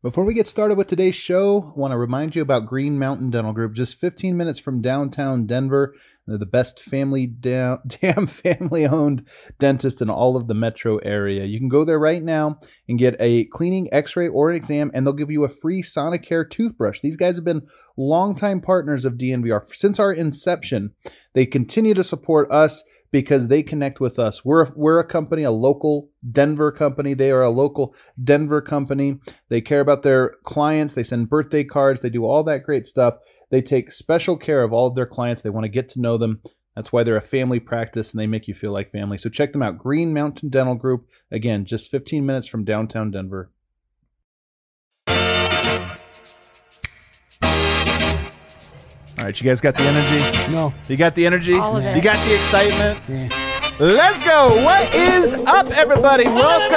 Before we get started with today's show, I want to remind you about Green Mountain Dental Group, just 15 minutes from downtown Denver. They're the best damn family-owned dentist in all of the metro area. You can go there right now and get a cleaning, x-ray, or an exam, and they'll give you a free Sonicare toothbrush. These guys have been longtime partners of DNVR. Since our inception, they continue to support us because they connect with us. We're a company, a local Denver company. They are a local Denver company. They care about their clients. They send birthday cards. They do all that great stuff. They take special care of all of their clients. They want to get to know them. That's why they're a family practice, and they make you feel like family. So check them out, Green Mountain Dental Group. Again, just 15 minutes from downtown Denver. All right, you guys got the energy? No. You got the energy? All of it. You got the excitement? Yeah. Let's go. What is up, everybody? Welcome.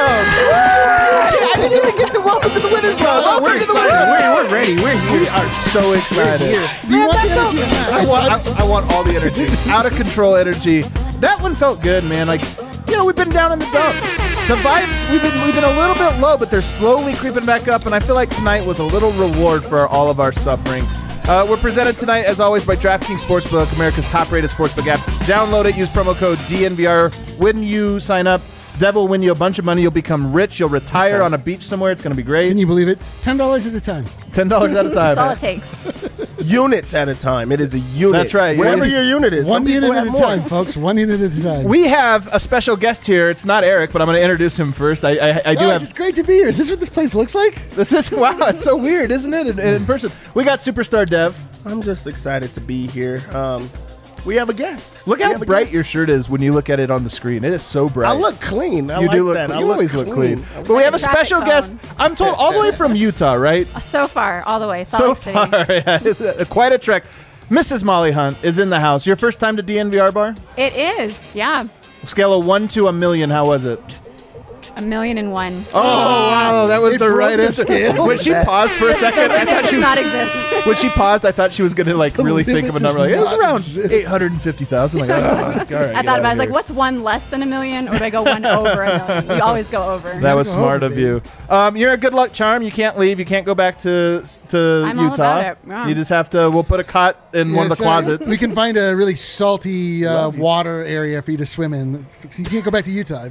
I didn't even get to welcome to the Winners Club. We're excited. We're ready. We're here. We are so excited. Do you want the energy or not? I want all the energy. Out of control energy. That one felt good, man. Like, we've been down in the dumps. The vibes, we've been a little bit low, but they're slowly creeping back up, and I feel like tonight was a little reward for all of our suffering. We're presented tonight, as always, by DraftKings Sportsbook, America's top-rated sportsbook app. Download it. Use promo code DNVR. When you sign up, Dev will win you a bunch of money. You'll become rich. You'll retire on a beach somewhere. It's going to be great. Can you believe it? $10 at a time. $10 at a time. That's all it takes. Units at a time. It is a unit. That's right. Whatever your unit is. One Some people unit at have a more. time, folks. One unit at a time. We have a special guest here. It's not Eric, but I'm going to introduce him first. I do have. It's great to be here. Is this what this place looks like? This is wow. It's so weird, isn't it? In person, we got Superstar Dev. I'm just excited to be here. We have a guest. Look We how have a bright guest. your shirt is when you look at it on the screen. It is so bright. I look clean. I You like do look. that. I You always look clean. clean. But we have a Traffic special cone. guest. I'm told all the way from Utah, right? So far, all the way. So Salt Lake City. far, yeah. It's quite a trek. Mrs. Molly Hunt is in the house. Your first time to DNVR bar? It is, yeah. Scale of 1 to 1,000,000. How was it? 1,000,001. Oh wow, that was They the broke right the answer. scale. When she paused for a second, I thought Does she not exist. when she paused, I thought she was gonna really think of a limit number. Like it does was not around exist. 850,000. Like, all right, I thought about it. I was like, what's one less than 1,000,000, or do I go one over 1,000,000? You always go over. That was Go smart over, of you. You're a good luck charm. You can't leave. You can't go back to I'm all Utah. about it, yeah. You just have to. We'll put a cot in one of the Yes, closets. We can find a really salty water area for you to swim in. You can't go back to Utah.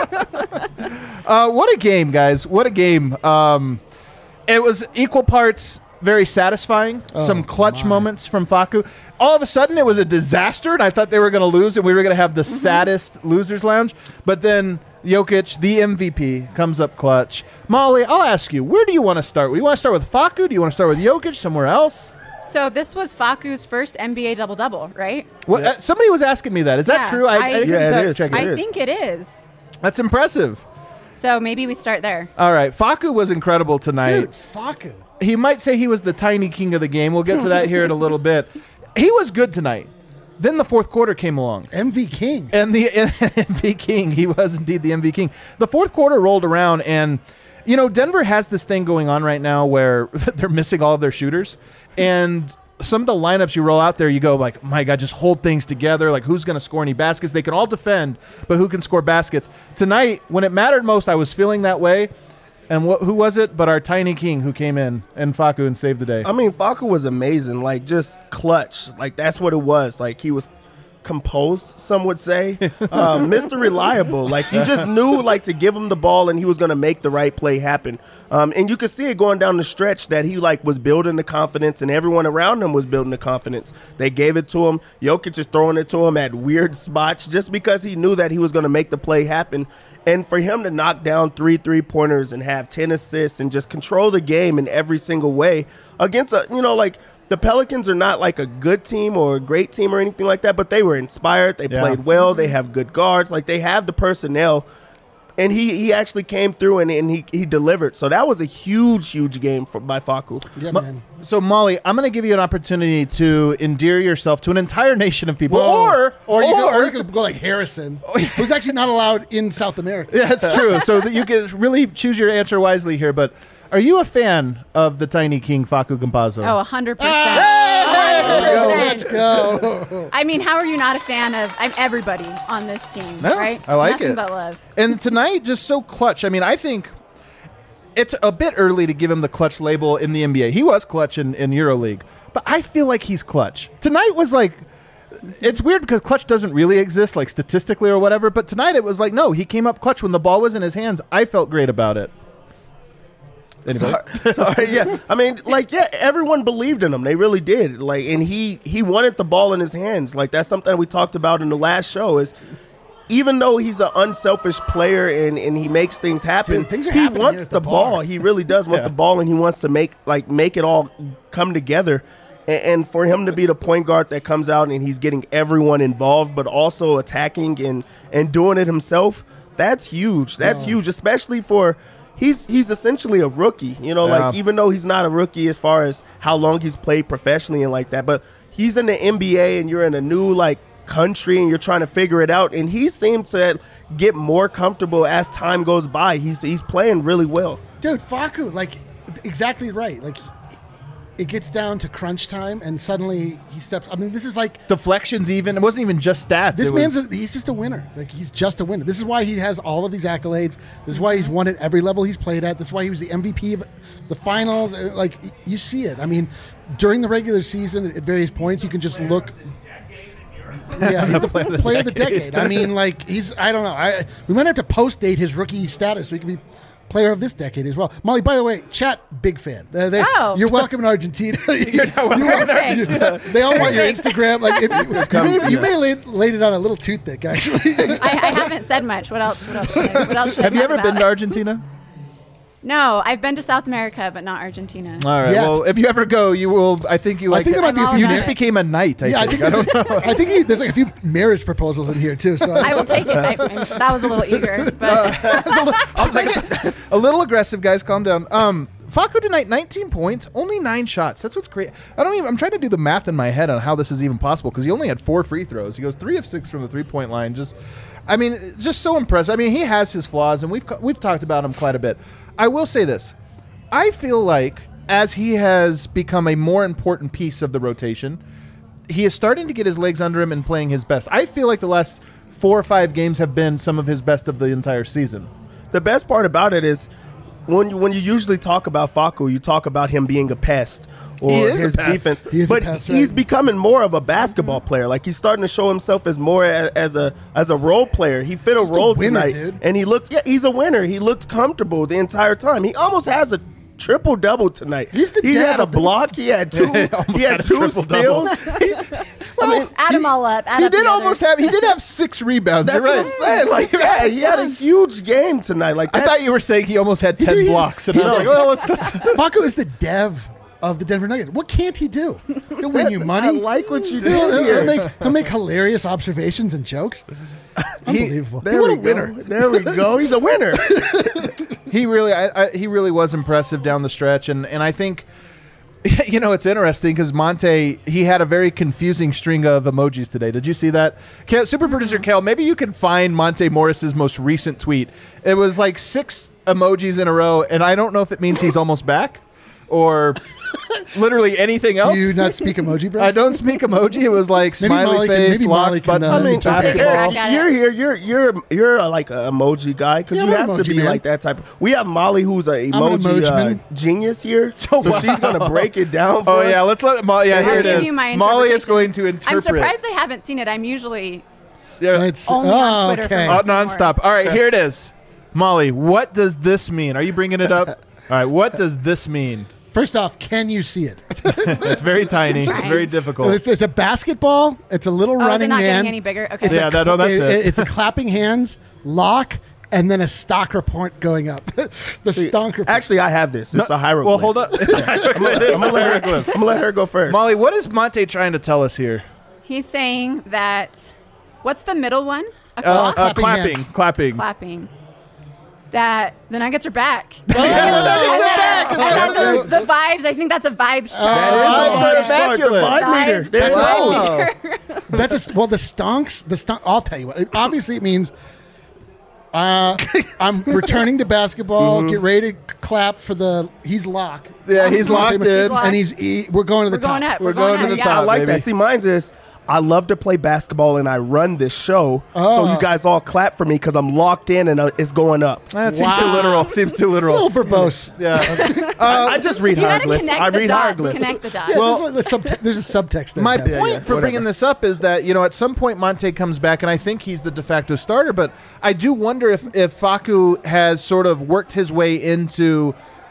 What a game, guys! What a game! It was equal parts very satisfying. Some clutch moments from Facu. All of a sudden, it was a disaster, and I thought they were going to lose, and we were going to have the saddest losers lounge. But then Jokic, the MVP, comes up clutch. Molly, I'll ask you, where do you want to start? Do you want to start with Facu? Do you want to start with Jokic? Somewhere else? So this was Facu's first NBA double-double, right? What, somebody was asking me that. Is that Yeah, true? I didn't Yeah, it fact is. check it. I It is. think it is. That's impressive. So maybe we start there. All right, Facu was incredible tonight. Dude, fuck it. He might say he was the tiny king of the game. We'll get to that here in a little bit. He was good tonight. Then the fourth quarter came along. MV King. And the MV King, he was indeed the MV King. The fourth quarter rolled around, and, Denver has this thing going on right now where they're missing all of their shooters. And some of the lineups you roll out there, you go like, my God, just hold things together. Like, who's going to score any baskets? They can all defend, but who can score baskets? Tonight, when it mattered most, I was feeling that way. And who was it but our tiny king who came in and Facu and saved the day? I mean, Facu was amazing. Like, just clutch. Like, that's what it was. Like, he was composed, some would say. Mr. Reliable. Like, you just knew, like, to give him the ball and he was going to make the right play happen. And you could see it going down the stretch that he, like, was building the confidence and everyone around him was building the confidence. They gave it to him. Jokic is throwing it to him at weird spots just because he knew that he was going to make the play happen. And for him to knock down 3 3-pointers and have 10 assists and just control the game in every single way against the Pelicans are not like a good team or a great team or anything like that, but they were inspired. They played well. They have good guards. Like, they have the personnel. And he actually came through and he delivered. So that was a huge game by Facu. Yeah, man. So, Molly, I'm going to give you an opportunity to endear yourself to an entire nation of people. Or you could go like Harrison, who's actually not allowed in South America. Yeah, that's true. So that you can really choose your answer wisely here. But are you a fan of the tiny king, Facu Campazzo? Oh, 100%. Let's go. I mean, how are you not a fan of everybody on this team, No, right? I like Nothing it. but love. And tonight, just so clutch. I mean, I think it's a bit early to give him the clutch label in the NBA. He was clutch in EuroLeague, but I feel like he's clutch. Tonight was like, it's weird because clutch doesn't really exist, like statistically or whatever, but tonight it was like, no, he came up clutch when the ball was in his hands. I felt great about it. Sorry, yeah. I mean, like, yeah, everyone believed in him. They really did. Like, and he wanted the ball in his hands. Like, that's something that we talked about in the last show is even though he's an unselfish player and he makes things happen, Dude, things are he happening wants here at the the ball. bar. He really does want the ball, and he wants to make it all come together. And for him to be the point guard that comes out and he's getting everyone involved, but also attacking and doing it himself, that's huge. That's huge, especially for he's essentially a rookie. You know, like even though he's not a rookie as far as how long he's played professionally and like that, but he's in the NBA and you're in a new like country and you're trying to figure it out. And he seemed to get more comfortable as time goes by. He's playing really well. Dude, Facu, like, exactly right. Like, it gets down to crunch time, and suddenly he steps. I mean, this is like Deflections, even. It wasn't even just stats. this he's just a winner. Like, he's just a winner. This is why he has all of these accolades. This is why he's won at every level he's played at. This is why he was the MVP of the finals. Like, you see it. I mean, during the regular season, at various points, you can just look. Yeah, he's the player of the decade. I mean, like, I don't know. We might have to post date his rookie status so he can be player of this decade as well. Molly, by the way, chat, big fan. You're welcome in Argentina. You're welcome in Argentina. They all want your Instagram. Like, you may laid it on a little too thick, actually. I haven't said much. What else should I Have you ever talk been about? to Argentina? No, I've been to South America, but not Argentina. All right. Yes. Well, if you ever go, you will. I think you like. think there might be a few you about just it. became a knight. I think. I think there's like a few marriage proposals in here too. So I will take it. That was a little eager, but I'll take it. A little aggressive, guys. Calm down. Facu tonight, 19 points, only 9 shots. That's what's great. I'm trying to do the math in my head on how this is even possible because he only had 4 free throws. He goes 3 of 6 from the 3-point line. Just so impressive. I mean, he has his flaws, and we've talked about him quite a bit. I will say this. I feel like as he has become a more important piece of the rotation, he is starting to get his legs under him and playing his best. I feel like the last 4 or 5 games have been some of his best of the entire season. The best part about it is when you usually talk about Facu, you talk about him being a pest or his defense. But he's becoming more of a basketball player. Like, he's starting to show himself as more as a role player. He fit a role tonight, dude. and he's a winner. He looked comfortable the entire time. He almost has a triple-double tonight. He had a block. He had 2 steals. add them all up. He did have 6 rebounds. That's You're what right. I'm saying. Like, yeah, he had a huge game tonight. Like, I thought you were saying he almost had 10 blocks. And I was like, well, Facu is the dev of the Denver Nuggets. What can't he do? He'll win you money. I like what you did here. He'll make hilarious observations and jokes. Unbelievable. What a winner. There we go. He's a winner. he really was impressive down the stretch, and I think, you know, it's interesting because Monte, he had a very confusing string of emojis today. Did you see that? Super producer Kel, maybe you can find Monte Morris's most recent tweet. It was like 6 emojis in a row, and I don't know if it means he's almost back or literally anything else. Do you not speak emoji, bro? I don't speak emoji. It was like Maybe smiley Molly face, can- lock Molly can, button, I mean, basketball. Eric, You're here. You're like an emoji guy because Yeah, you I'm have an to emoji be man. like that type. We have Molly, who's an an emoji emoji genius here, Oh, so wow. she's gonna break it down. For Oh us. yeah, let's let Molly. Yeah, here I'll it give is. you my Molly is interpretation. going to I'm interpret. surprised I haven't seen it. I'm usually Yeah. It's only on Twitter okay. for Monte Nonstop. Morris. All right, here it is. Molly, what does this mean? Are you bringing it up? All right, what does this mean? First off, can you see it? It's very tiny. It's Trying. very difficult. It's a basketball. It's a little Oh, is it running not man. getting any bigger? Okay. Yeah, that's it. It's a clapping hands, lock, and then a stock report going up. The stonk report. Actually, I have this. It's a hieroglyph. Well, hold up. It's a hieroglyph. I'm gonna let her go first. Molly, what is Monte trying to tell us here? He's saying that. What's the middle one? A clock? Clapping hands. Clapping. Clapping. That the Nuggets are back. Oh, The vibes. I think that's a vibes check. That is Vibes the vibe meter. Vibes. There it Wow. is. That's just the stonks. I'll tell you what. Obviously, it means I'm returning to basketball. Get ready to clap for the. He's locked. Yeah, he's locked in. locked. And we're going to the We're top. going up. We're going to up, the yeah. top. I like baby. that. See, mine's is I love to play basketball and I run this show, so you guys all clap for me because I'm locked in and it's going up. That seems too literal. Seems too A literal. little verbose. Yeah. I just read You gotta hieroglyph. connect I the read dots. hieroglyph. Connect the dots. Well, there's a subtext there. My Kevin. point for bringing this up is that, at some point Monte comes back, and I think he's the de facto starter, but I do wonder if Facu has sort of worked his way into,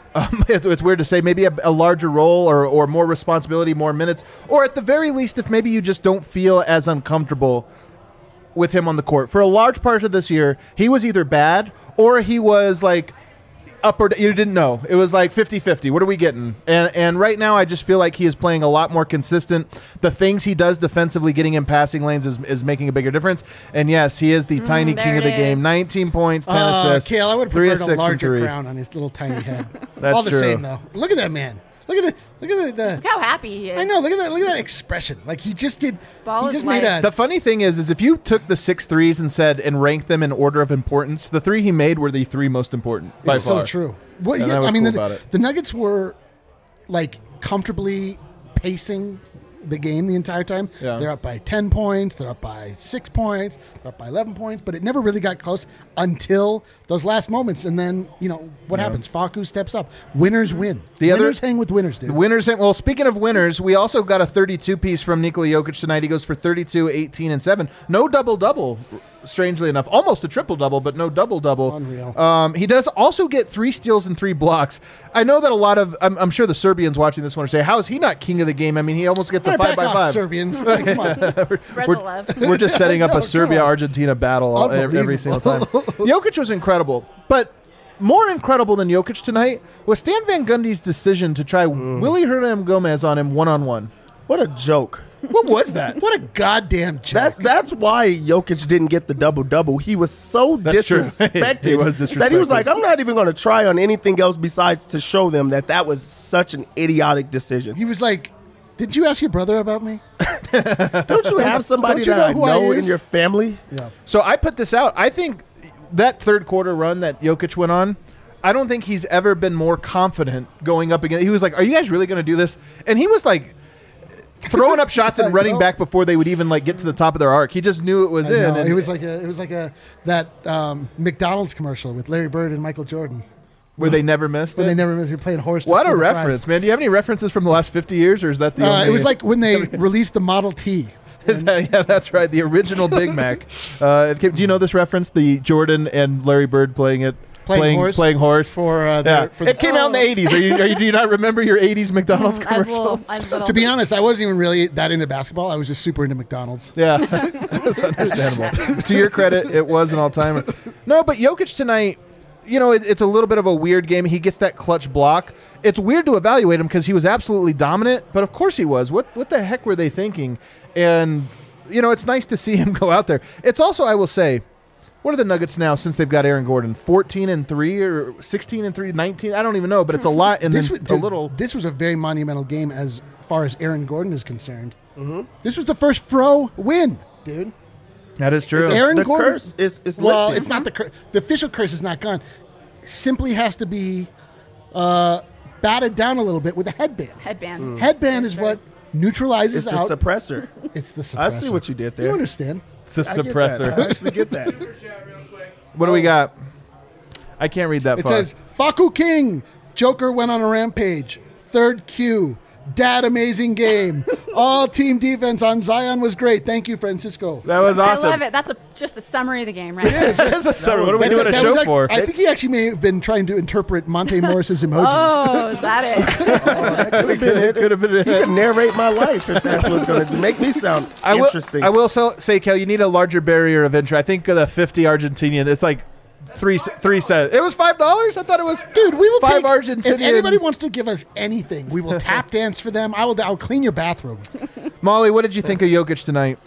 it's weird to say, maybe a larger role or more responsibility, more minutes, or at the very least, if maybe you just don't feel as uncomfortable with him on the court. For a large part of this year, he was either bad or he was like up or you didn't know. It was like 50-50. What are we getting? And right now I just feel like he is playing a lot more consistent. The things he does defensively, getting in passing lanes is making a bigger difference. And yes, he is the tiny there king of the it game. is. 19 points, 10 assists. Kale, I would have 3 of preferred 6 a from larger 3. crown on his little tiny head. That's All the true. same, though. Look at that man. Look at the Look how happy he is. I know. Look at that expression. Like he just did. Ball he is just made light. a. The funny thing is if you took the 6 threes and ranked them in order of importance, the 3 he made were the 3 most important by It's far. so true. Well, And yeah, that was I mean, cool about it. the Nuggets were like comfortably pacing the game the entire time. Yeah. They're up by 10 points. They're up by 6 points. They're up by 11 points. But it never really got close until those last moments. And then, what happens? Facu steps up. Winners win. Winners hang with winners, dude. Winners. Well, speaking of winners, we also got a 32 piece from Nikola Jokic tonight. He goes for 32, 18, and 7. No double-double, strangely enough. Almost a triple-double, but no double-double. Unreal. He does also get 3 steals and 3 blocks. I know that a lot of, I'm sure the Serbians watching this want to say, how is he not king of the game? I mean, he almost gets a Back 5 off, by 5. Serbians. Like, come on. Spread the love. We're just setting up No, a come Serbia-Argentina battle every single time. Jokic was incredible, but more incredible than Jokic tonight was Stan Van Gundy's decision to try Willie Hernan Gomez on him one-on-one. What a joke. What was that? What a goddamn joke. That's why Jokic didn't get the double-double. He was so That's true. disrespected He was that he was disrespected. like, I'm not even going to try on anything else besides to show them that was such an idiotic decision. He was like, did you ask your brother about me? Don't you have somebody Don't you that know I who I know is? in your family? Yeah. So I put this out. I think that third quarter run that Jokic went on, I don't think he's ever been more confident going up against. He was like, are you guys really going to do this? And he was like throwing up shots and running back before they would even like get to the top of their arc. He just knew it was in. No, And it was like that McDonald's commercial with Larry Bird and Michael Jordan. where they never missed When it. they never missed, you're playing horse. to What steal a the fries. reference, man. Do you have any references from the last 50 years, or is that the only? It was like when they released the Model T. Yeah, that's right. The original Big Mac. Do you know this reference? The Jordan and Larry Bird playing Playing horse for for for it came out in the 80s. Do you not remember your 80s McDonald's commercials? To be honest, I wasn't even really that into basketball. I was just super into McDonald's. Yeah, that's understandable. To your credit, it was an all-timer. No, but Jokic tonight, it's a little bit of a weird game. He gets that clutch block. It's weird to evaluate him because he was absolutely dominant, but of course he was. What the heck were they thinking? And, it's nice to see him go out there. It's also, I will say, what are the Nuggets now since they've got Aaron Gordon? 14-3 or 16-3, 19? I don't even know, but it's a lot. And This then was, a little. This was a very monumental game as far as Aaron Gordon is concerned. Mm-hmm. This was the first Fro win, dude. That is true. Aaron The Gordon. curse is Well, lifted. it's not the curse. The official curse is not gone. Simply has to be batted down a little bit with a headband. Headband. Headband is what neutralizes It's the out. suppressor. It's the suppressor. I see what you did there. You understand? It's the I get that. suppressor. I actually get that. What do we got? I can't read that It far. says, Facu King, Joker went on a rampage. Third Q, Dad amazing game. All team defense on Zion was great. Thank you, Francisco. That was awesome. I love it. That's just a summary of the game, right? That's a summary. What are we That's doing a that show was for? I think he actually may have been trying to interpret Monte Morris's emojis. Oh, is that it? Could have been You it. can narrate my life if that's what's going to make me sound interesting. I will say, Kel, you need a larger barrier of entry. I think the 50 Argentinian, it's like three cents. It was $5? I thought it was. Dude, we will $5 take Argentinian. If anybody wants to give us anything, we will tap dance for them. I'll clean your bathroom. Molly, what did you think of Jokic tonight?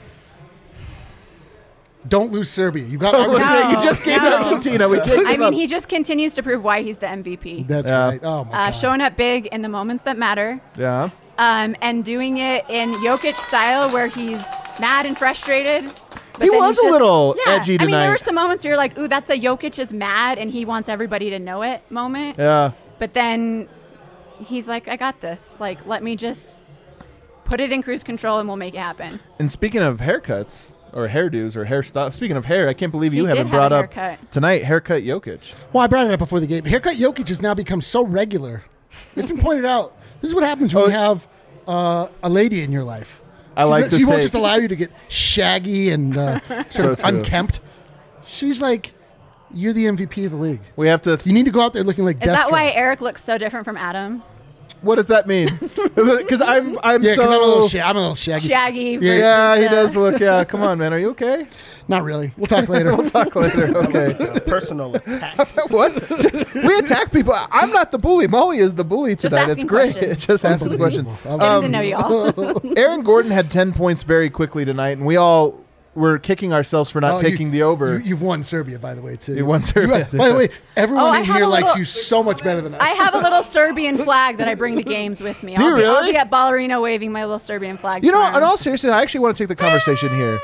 Don't lose Serbia. You got No. You just gave No. Argentina. We can't I give mean, up. he just continues to prove why he's the MVP. That's Yeah. right. Oh my God. Showing up big in the moments that matter, Yeah. and doing it in Jokic style where he's mad and frustrated. But He then was he's a little yeah. edgy I mean, there tonight. were some moments where you're like, ooh, that's a Jokic is mad and he wants everybody to know it moment. Yeah. But then he's like, I got this. Like, let me just put it in cruise control and we'll make it happen. And speaking of haircuts or hairdos or hairstyle, speaking of hair, I can't believe you He did haven't have brought a up haircut. tonight haircut Jokic. Well, I brought it up before the game. Haircut Jokic has now become so regular. It's been pointed out. This is what happens when you have a lady in your life. I like this She won't take. just allow you to get shaggy and sort of true. unkempt. She's like, you're the MVP of the league. We have to. You need to go out there looking like Is that Destro. why Eric looks so different from Adam? What does that mean? Because I'm Yeah, 'cause so. I'm a little shaggy. Shaggy. Yeah, Yeah, he versus, does look. Yeah, come on, man. Are you okay? Not really. We'll talk later. We'll talk later. Okay. A personal attack. What? We attack people. I'm not the bully. Molly is the bully Just tonight. It's asking great. questions. It's just answering the question. Unbelievable. Getting to know y'all. Aaron Gordon had 10 points very quickly tonight, and we all were kicking ourselves for not Oh, taking the over. You've won Serbia, by the way, too. You won Serbia. By the way, everyone Oh, I in have here a likes little- you so much better than us. I have a little Serbian flag that I bring to games with me. Do you I'll really? be at Ballerino waving my little Serbian flag. You know, tomorrow. in all seriousness, I actually want to take the conversation here.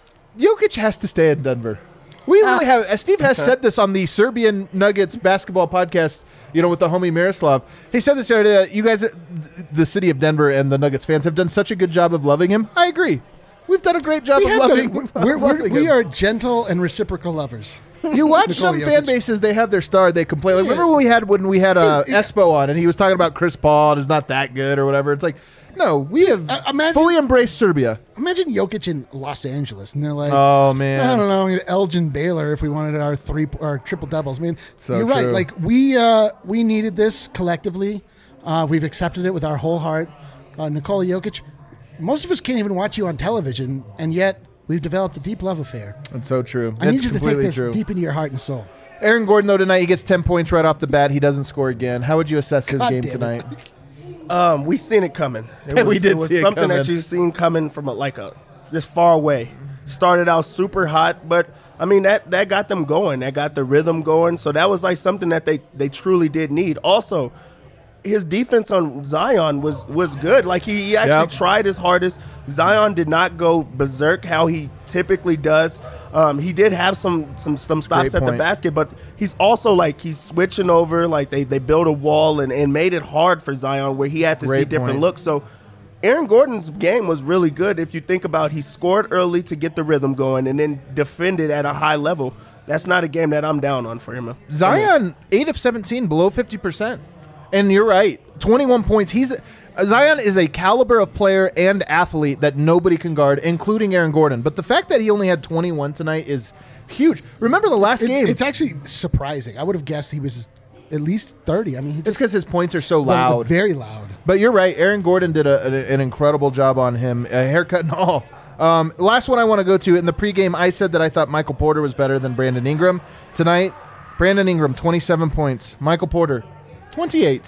Jokic has to stay in Denver. We really have. Steve has said this on the Serbian Nuggets basketball podcast, you know, with the homie Miroslav. He said this the other day that you guys, the city of Denver and the Nuggets fans, have done such a good job of loving him. I agree. We've done a great job of loving We him. are gentle and reciprocal lovers. You watch Nikola some Jokic. fan bases; they have their star. They complain. Like, Yeah. remember when we had Dude, yeah. Espo on, and he was talking about Chris Paul and is not that good or whatever. It's like, no, we have imagine- fully embraced Serbia. Imagine Jokic in Los Angeles, and they're like, Oh I man, don't know, Elgin Baylor if we wanted our triple doubles. I mean, So you're right. true. Like we needed this collectively. We've accepted it with our whole heart. Nikola Jokic. Most of us can't even watch you on television, and yet we've developed a deep love affair. That's so true. I That's need you to take completely this true. deep into your heart and soul. Aaron Gordon, though, tonight he gets 10 points right off the bat. He doesn't score again. How would you assess his God game damn it. tonight? We seen it coming. We did it was see it something coming. that you seen coming from just far away. Started out super hot, but I mean that got them going. That got the rhythm going. So that was like something that they truly did need. Also, his defense on Zion was good. Like he actually Yep. tried his hardest. Zion did not go berserk how he typically does. He did have some stops Great at the point. basket, but he's also like he's switching over. Like they built a wall and made it hard for Zion where he had to see Great different point. looks. So Aaron Gordon's game was really good. If you think about, he scored early to get the rhythm going and then defended at a high level. That's not a game that I'm down on for him. Zion, 8 of 17, below 50%. And you're right, 21 points. Zion is a caliber of player and athlete that nobody can guard, including Aaron Gordon. But the fact that he only had 21 tonight is huge. Remember the last game? It's actually surprising. I would have guessed he was at least 30. I mean, he It's just because his points are so loud. very loud. But you're right. Aaron Gordon did an incredible job on him, a haircut and all. Last one I want to go to. In the pregame, I said that I thought Michael Porter was better than Brandon Ingram. Tonight, Brandon Ingram, 27 points. Michael Porter, 28.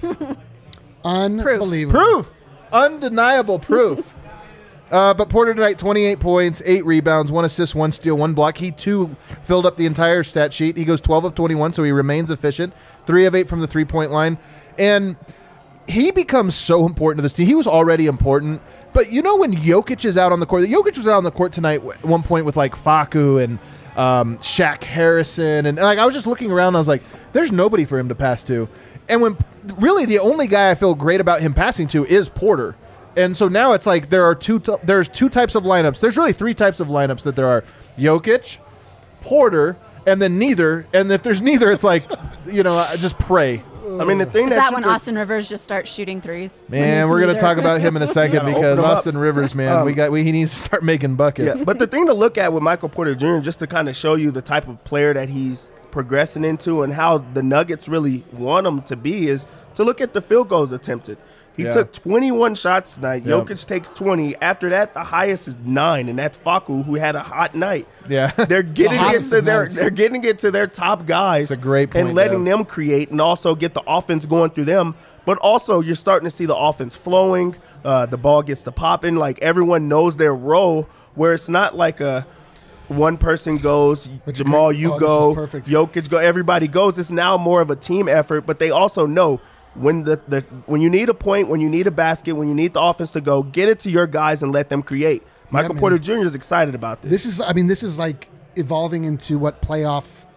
Unbelievable. Proof. Undeniable proof. But Porter tonight, 28 points, 8 rebounds, 1 assist, 1 steal, 1 block. He, too, filled up the entire stat sheet. He goes 12 of 21, so he remains efficient. 3 of 8 from the three-point line. And he becomes so important to this team. He was already important. But you know when Jokic is out on the court? Jokic was out on the court tonight at one point with, like, Facu and Shaq Harrison. And, like, I was just looking around, and I was like, there's nobody for him to pass to. And when really the only guy I feel great about him passing to is Porter. And so now it's like there's two types of lineups. There's really 3 types of lineups that there are: Jokic, Porter, and then neither. And if there's neither, it's like, just pray. I mean, the thing Is that that you when could- Austin Rivers just starts shooting threes? When Man, it's we're gonna neither? talk about him in a second gotta because open him up. Austin Rivers, man, he needs to start making buckets. Yeah, but the thing to look at with Michael Porter Jr., just to kind of show you the type of player that he's progressing into and how the Nuggets really want him to be, is to look at the field goals attempted. He Yeah. took 21 shots tonight. Yep. Jokic takes 20. After that, the highest is 9, and that's Facu, who had a hot night. Yeah. They're getting The it hottest to their nights. they're getting it to their top guys. That's a great point, and letting Dev. them create and also get the offense going through them. But also, you're starting to see the offense flowing. The ball gets to popping. Like everyone knows their role. Where it's not like a one person goes, That's Jamal, great. you Oh, this go, is perfect. Jokic go, everybody goes. It's now more of a team effort. But they also know when when you need a point, when you need a basket, when you need the offense to go, get it to your guys and let them create. Michael man. Porter Jr. is excited about this. This is like evolving into what playoff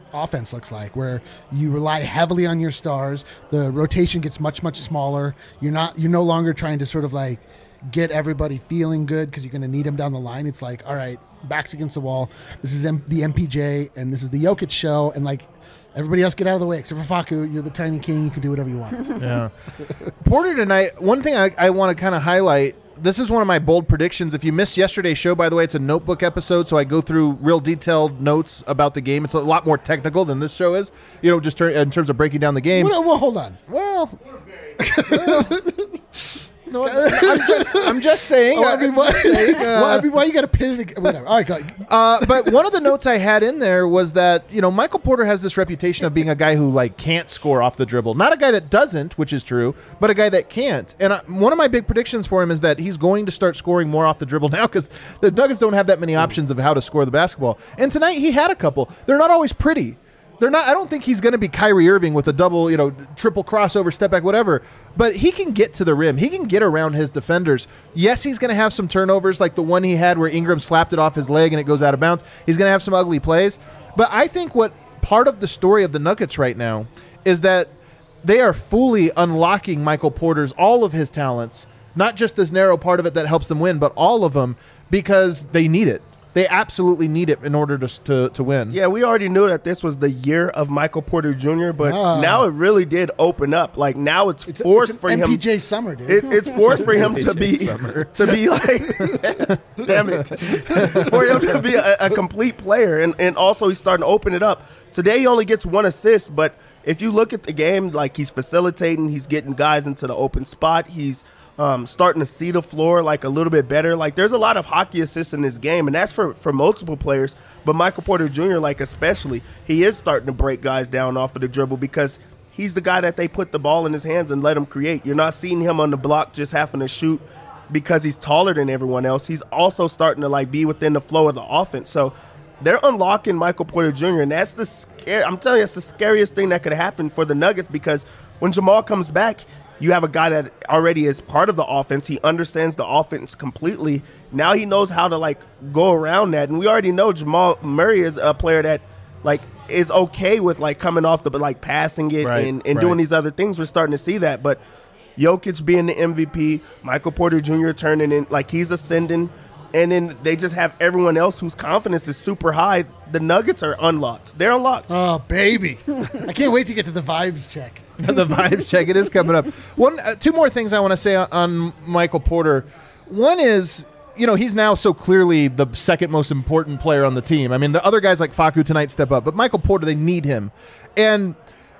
offense looks like, where you rely heavily on your stars. The rotation gets much, much smaller. You're no longer trying to sort of like get everybody feeling good because you're going to need them down the line. It's like, all right, backs against the wall. This is the MPJ, and this is the Jokic show, and like everybody else get out of the way except for Facu. You're the tiny king. You can do whatever you want. Yeah. Porter tonight, one thing I want to kind of highlight, this is one of my bold predictions. If you missed yesterday's show, by the way, it's a notebook episode, so I go through real detailed notes about the game. It's a lot more technical than this show is, just in terms of breaking down the game. Well, hold on. Well, no, I'm just saying. Why you got to pin it? Whatever. All right, go. But one of the notes I had in there was that Michael Porter has this reputation of being a guy who like can't score off the dribble. Not a guy that doesn't, which is true, but a guy that can't. And one of my big predictions for him is that he's going to start scoring more off the dribble now because the Nuggets don't have that many options of how to score the basketball. And tonight he had a couple. They're not always pretty. They're not. I don't think he's going to be Kyrie Irving with a double, triple crossover, step back, whatever. But he can get to the rim. He can get around his defenders. Yes, he's going to have some turnovers like the one he had where Ingram slapped it off his leg and it goes out of bounds. He's going to have some ugly plays. But I think what part of the story of the Nuggets right now is that they are fully unlocking Michael Porter's all of his talents, not just this narrow part of it that helps them win, but all of them because they need it. They absolutely need it in order to win. Yeah, we already knew that this was the year of Michael Porter Jr., but now it really did open up. Like now it's forced for him. MPJ summer, dude. It's forced for him to be like, damn it, for him to be a complete player, and also he's starting to open it up. Today he only gets 1 assist, but if you look at the game, like he's facilitating, he's getting guys into the open spot, he's starting to see the floor like a little bit better. Like there's a lot of hockey assists in this game, and that's for multiple players. But Michael Porter Jr., like especially, he is starting to break guys down off of the dribble because he's the guy that they put the ball in his hands and let him create. You're not seeing him on the block just having to shoot because he's taller than everyone else. He's also starting to like be within the flow of the offense. So they're unlocking Michael Porter Jr., and that's I'm telling you, it's the scariest thing that could happen for the Nuggets because when Jamal comes back, you have a guy that already is part of the offense. He understands the offense completely. Now he knows how to, like, go around that. And we already know Jamal Murray is a player that, like, is okay with, like, coming off the, like, passing it and doing these other things. We're starting to see that. But Jokic being the MVP, Michael Porter Jr. turning in, like, he's ascending. And then they just have everyone else whose confidence is super high. The Nuggets are unlocked. They're unlocked. Oh, baby. I can't wait to get to the vibes check. The vibes check. It is coming up. Two more things I want to say on Michael Porter. One is, he's now so clearly the second most important player on the team. I mean, the other guys like Facu tonight step up, but Michael Porter, they need him. And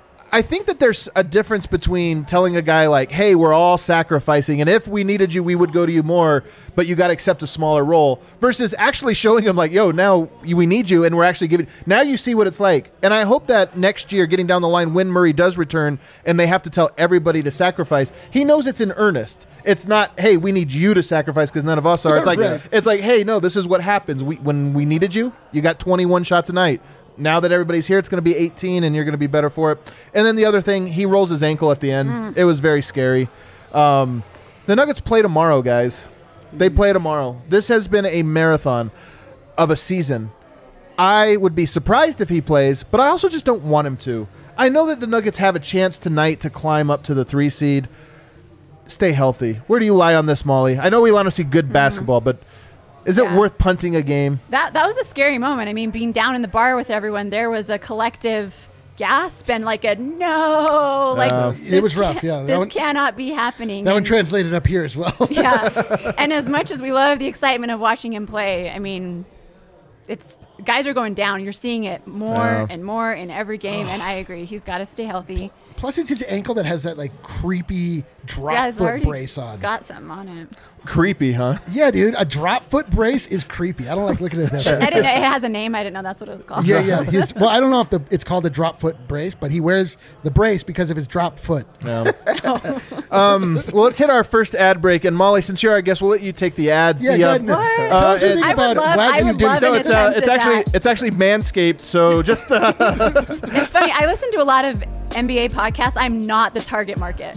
I think that there's a difference between telling a guy like, hey, we're all sacrificing, and if we needed you, we would go to you more, but you got to accept a smaller role, versus actually showing him like, yo, now we need you, and we're actually giving. Now you see what it's like. And I hope that next year, getting down the line, when Murray does return, and they have to tell everybody to sacrifice, he knows it's in earnest. It's not, hey, we need you to sacrifice because none of us are. It's like, It's like, hey, no, this is what happens. When we needed you, you got 21 shots a night. Now that everybody's here, it's going to be 18, and you're going to be better for it. And then the other thing, he rolls his ankle at the end. It was very scary. The Nuggets play tomorrow, guys. They play tomorrow. This has been a marathon of a season. I would be surprised if he plays, but I also just don't want him to. I know that the Nuggets have a chance tonight to climb up to the 3 seed. Stay healthy. Where do you lie on this, Molly? I know we want to see good basketball, but is it worth punting a game? That was a scary moment. I mean, being down in the bar with everyone, there was a collective gasp and like a no. Like it was rough, yeah. This cannot be happening. That one translated up here as well. Yeah. And as much as we love the excitement of watching him play, I mean, guys are going down. You're seeing it more and more in every game, and I agree. He's got to stay healthy. Plus, it's his ankle that has that like creepy drop foot brace on. Got something on it. Creepy, huh? Yeah, dude. A drop foot brace is creepy. I don't like looking at that. I didn't know it has a name. I didn't know that's what it was called. Yeah. Well, I don't know if it's called the drop foot brace, but he wears the brace because of his drop foot. Yeah. Well, let's hit our first ad break. And Molly, since you're our guest, we'll let you take the ads. Yeah, I would love no, it's actually Manscaped. So just it's funny. I listen to a lot of NBA podcast, I'm not the target market.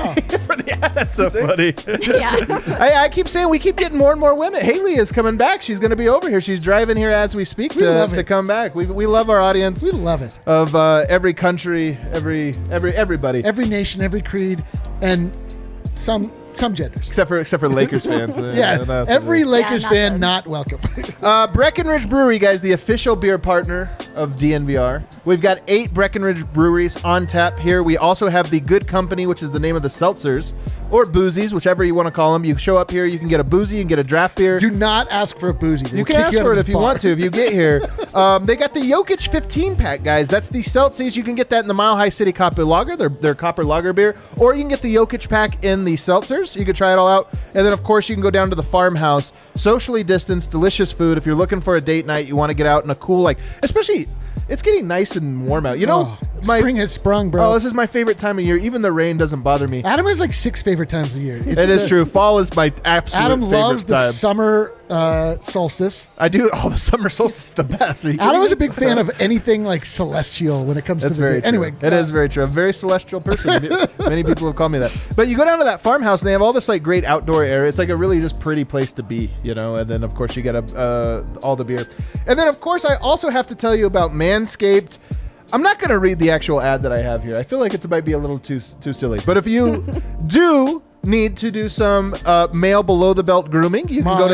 That's so funny. Yeah. I keep saying we keep getting more and more women. Haley is coming back. She's going to be over here. She's driving here as we speak to come back. We love our audience. We love it. Of every country, everybody, every nation, every creed, and some genders. Except for Lakers fans. Yeah, every Lakers fan not welcome. Breckenridge Brewery, guys, the official beer partner of DNVR. We've got 8 Breckenridge breweries on tap here. We also have the Good Company, which is the name of the seltzers, or boozies, whichever you want to call them. You show up here, you can get a boozy, you can get a draft beer. Do not ask for a boozy. You can ask for it if you want to, if you get here. They got the Jokic 15-pack, guys. That's the seltzies. You can get that in the Mile High City Copper Lager, their Copper Lager beer, or you can get the Jokic pack in the seltzers. You can try it all out. And then, of course, you can go down to the Farmhouse. Socially distanced, delicious food. If you're looking for a date night, you want to get out in a cool, especially... It's getting nice and warm out. Spring has sprung, bro. Oh, this is my favorite time of year. Even the rain doesn't bother me. Adam has 6 favorite times of the year. It is true. Fall is my absolute Adam favorite loves the time. summer solstice. I do. Oh, the summer solstice is the best. Adam is a big fan of anything celestial when it comes That's to the very day. true. Anyway, it is very true. I'm a very celestial person. Many people have called me that. But you go down to that farmhouse and they have all this great outdoor area. It's a really just pretty place to be, And then of course you get all the beer. And then of course I also have to tell you about Manscaped. I'm not going to read the actual ad that I have here. I feel like it might be a little too silly. But if you do need to do some male below the belt grooming, you can go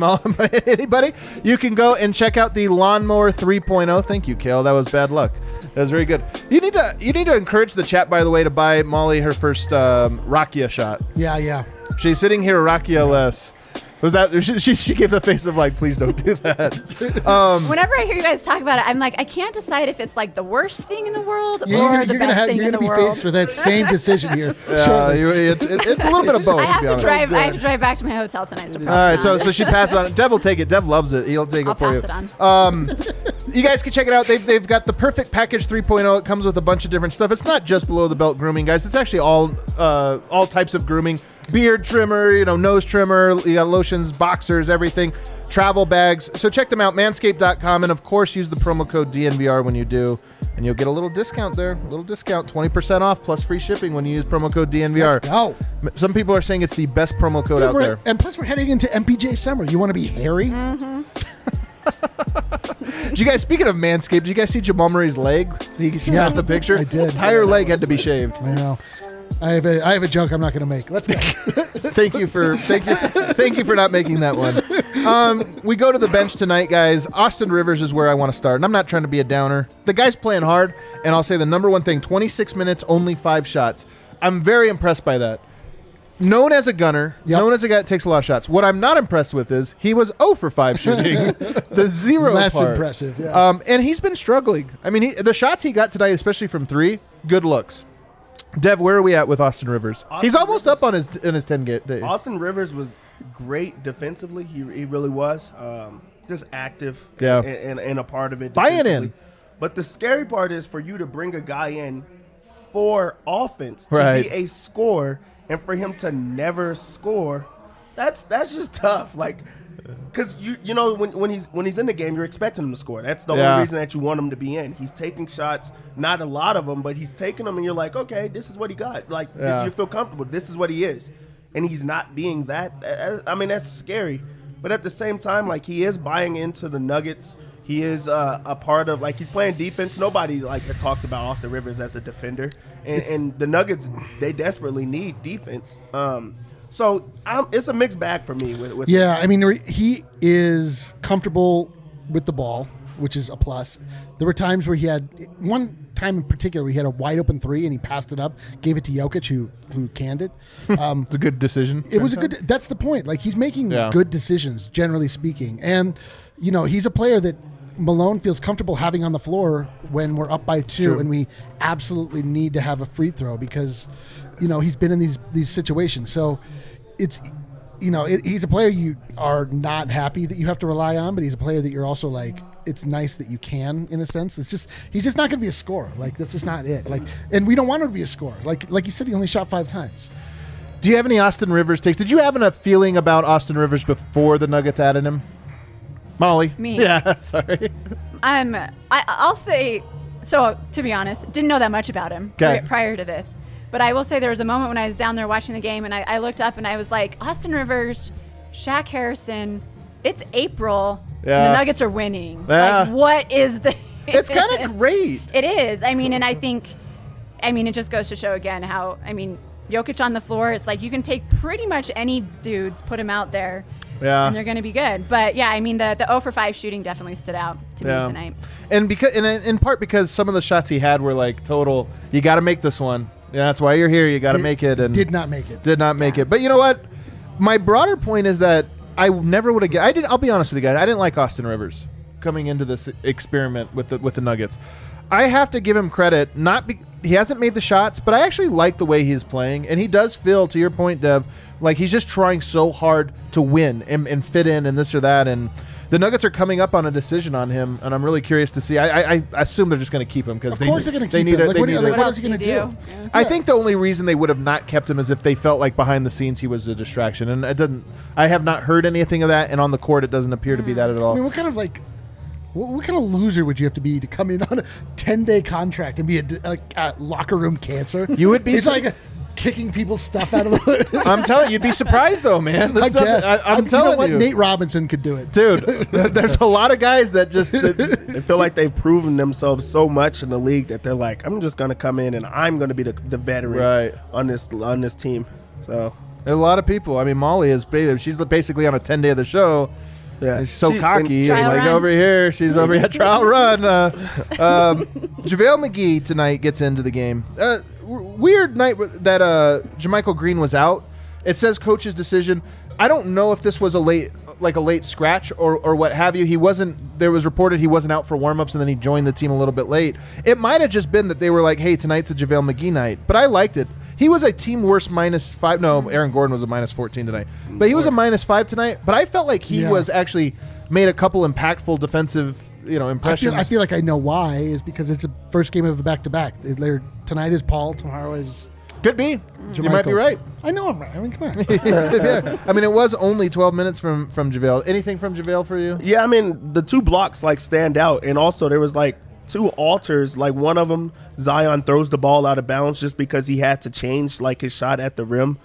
to anybody. You can go and check out the Lawnmower 3.0. Thank you, Kale. That was bad luck. That was very good. You need to encourage the chat, by the way, to buy Molly her first Rakia shot. Yeah. She's sitting here Rakia less. Was that she gave the face of please don't do that. Whenever I hear you guys talk about it, I'm I can't decide if it's the worst thing in the world or the best thing in the world. You're going to be faced with that same decision here. It's a little bit of both. I have to drive back to my hotel tonight. So all right, so she passes on. Dev will take it. Dev loves it. He'll take it for you. I'll pass it on. You guys can check it out. They've got the Perfect Package 3.0. It comes with a bunch of different stuff. It's not just below the belt grooming, guys. It's actually all types of grooming. Beard trimmer, nose trimmer, you got lotions, boxers, everything, travel bags. So check them out, manscaped.com, and of course use the promo code DNVR when you do, and you'll get a little discount there. A little discount, 20% off plus free shipping when you use promo code DNVR. Let's go. Some people are saying it's the best promo code out there. And plus we're heading into MPJ summer. You want to be hairy? Mm-hmm. Did you guys, speaking of Manscaped, did you guys see Jamal Murray's leg? He passed the picture. I did. Entire leg had to be shaved. I know. I have a joke I'm not going to make. Let's go. Thank you for not making that one. We go to the bench tonight, guys. Austin Rivers is where I want to start, and I'm not trying to be a downer. The guy's playing hard, and I'll say the number one thing: 26 minutes, only 5 shots. I'm very impressed by that. Known as a gunner, known as a guy that takes a lot of shots. What I'm not impressed with is he was 0 for 5 shooting. The 0 less part. impressive. Yeah. And he's been struggling. I mean, the shots he got tonight, especially from 3, good looks. Dev, where are we at with Austin Rivers? He's almost up on his 10 days. Austin Rivers was great defensively. He really was. Just active and a part of it. Buying in. But the scary part is for you to bring a guy in for offense to be a scorer and for him to never score. That's just tough. Because when he's in the game, you're expecting him to score. That's the only reason that you want him to be in. He's taking shots, not a lot of them, but he's taking them, and you're like, okay, this is what he got. You feel comfortable. This is what he is, and he's not being that. I mean, that's scary. But at the same time, he is buying into the Nuggets. He is a part of he's playing defense. Nobody has talked about Austin Rivers as a defender, and the Nuggets, they desperately need defense. So it's a mixed bag for me. With yeah, I mean, he is comfortable with the ball, which is a plus. There were times where he had one time in particular where he had a wide open 3 and he passed it up, gave it to Jokic, who canned it. It's a good decision. It was a good. That's the point. He's making good decisions, generally speaking, and he's a player that Malone feels comfortable having on the floor when we're up by 2 and we absolutely need to have a free throw because he's been in these situations. So it's he's a player you are not happy that you have to rely on, but he's a player that you're also it's nice that you can, in a sense. It's just he's just not going to be a scorer. That's just not it. And we don't want him to be a scorer. Like you said, he only shot 5 times. Do you have any Austin Rivers takes? Did you have a feeling about Austin Rivers before the Nuggets added him? Molly? Me. Yeah, sorry. I'll say So, to be honest, didn't know that much about him 'Kay. prior to this. But I will say there was a moment when I was down there watching the game, and I looked up and I was like, Austin Rivers, Shaq Harrison, it's April, and Yeah. the Nuggets are winning. Yeah. Like, what is the... It's kind of great. It is. I mean, and I think, it just goes to show again how, Jokic on the floor, it's like you can take pretty much any dudes, put them out there, Yeah. and they're going to be good. But, yeah, the 0 for 5 shooting definitely stood out to me tonight. And in part because some of the shots he had were like total, you got to make this one. Yeah, that's why you're here. You got to make it. And Did not make it. Did not make it. But you know what? My broader point is that I never would have. I'll be honest with you guys. I didn't like Austin Rivers coming into this experiment with the Nuggets. I have to give him credit. He hasn't made the shots, but I actually like the way he's playing, and he does feel, to your point, Dev, like he's just trying so hard to win and fit in and this or that. And the Nuggets are coming up on a decision on him, and I'm really curious to see. I assume they're just going to keep him because Of course they're going to keep need him. it. What What else is he going to do? Yeah. I think the only reason they would have not kept him is if they felt like behind the scenes he was a distraction, and it doesn't. I have not heard anything of that, and on the court it doesn't appear to be that at all. I mean, what kind of loser would you have to be to come in on a 10-day contract and be a locker room cancer? You would be. He's like kicking people's stuff out of the. I'm telling you, you'd be surprised though, man. This stuff, I'm telling you. Know what? you, Nate Robinson could do it, dude. There's a lot of guys that just. They feel like they've proven themselves so much in the league that they're like, I'm just going to come in and I'm going to be the veteran Right. on this team. So There's a lot of people. I mean, Molly is. She's basically on a 10-day of the show. yeah, She's so cocky. Trial Like run. over here, she's over here. Trial run. JaVale McGee tonight gets into the game. Weird night that JaMychal Green was out. It says coach's decision. I don't know if this was a late scratch or what have you. He wasn't. There was reported he wasn't out for warmups and then he joined the team a little bit late. It might have just been that they were like, "Hey, tonight's a JaVale McGee night." But I liked it. He was a team worst -5. No, Aaron Gordon was a -14 tonight. But he was a -5 tonight. But I felt like he was actually made a couple impactful defensive, impressions. I feel like I know why. Is because it's the first game of a back-to-back. Tonight is Paul. Tomorrow is. Could be. You might be JaMychal. right. I know I'm right. I mean, come on. Yeah. I mean, it was only 12 minutes from JaVale. Anything from JaVale for you? Yeah, I mean, the two blocks stand out, and also there was two alters. One of them, Zion throws the ball out of bounds just because he had to change his shot at the rim.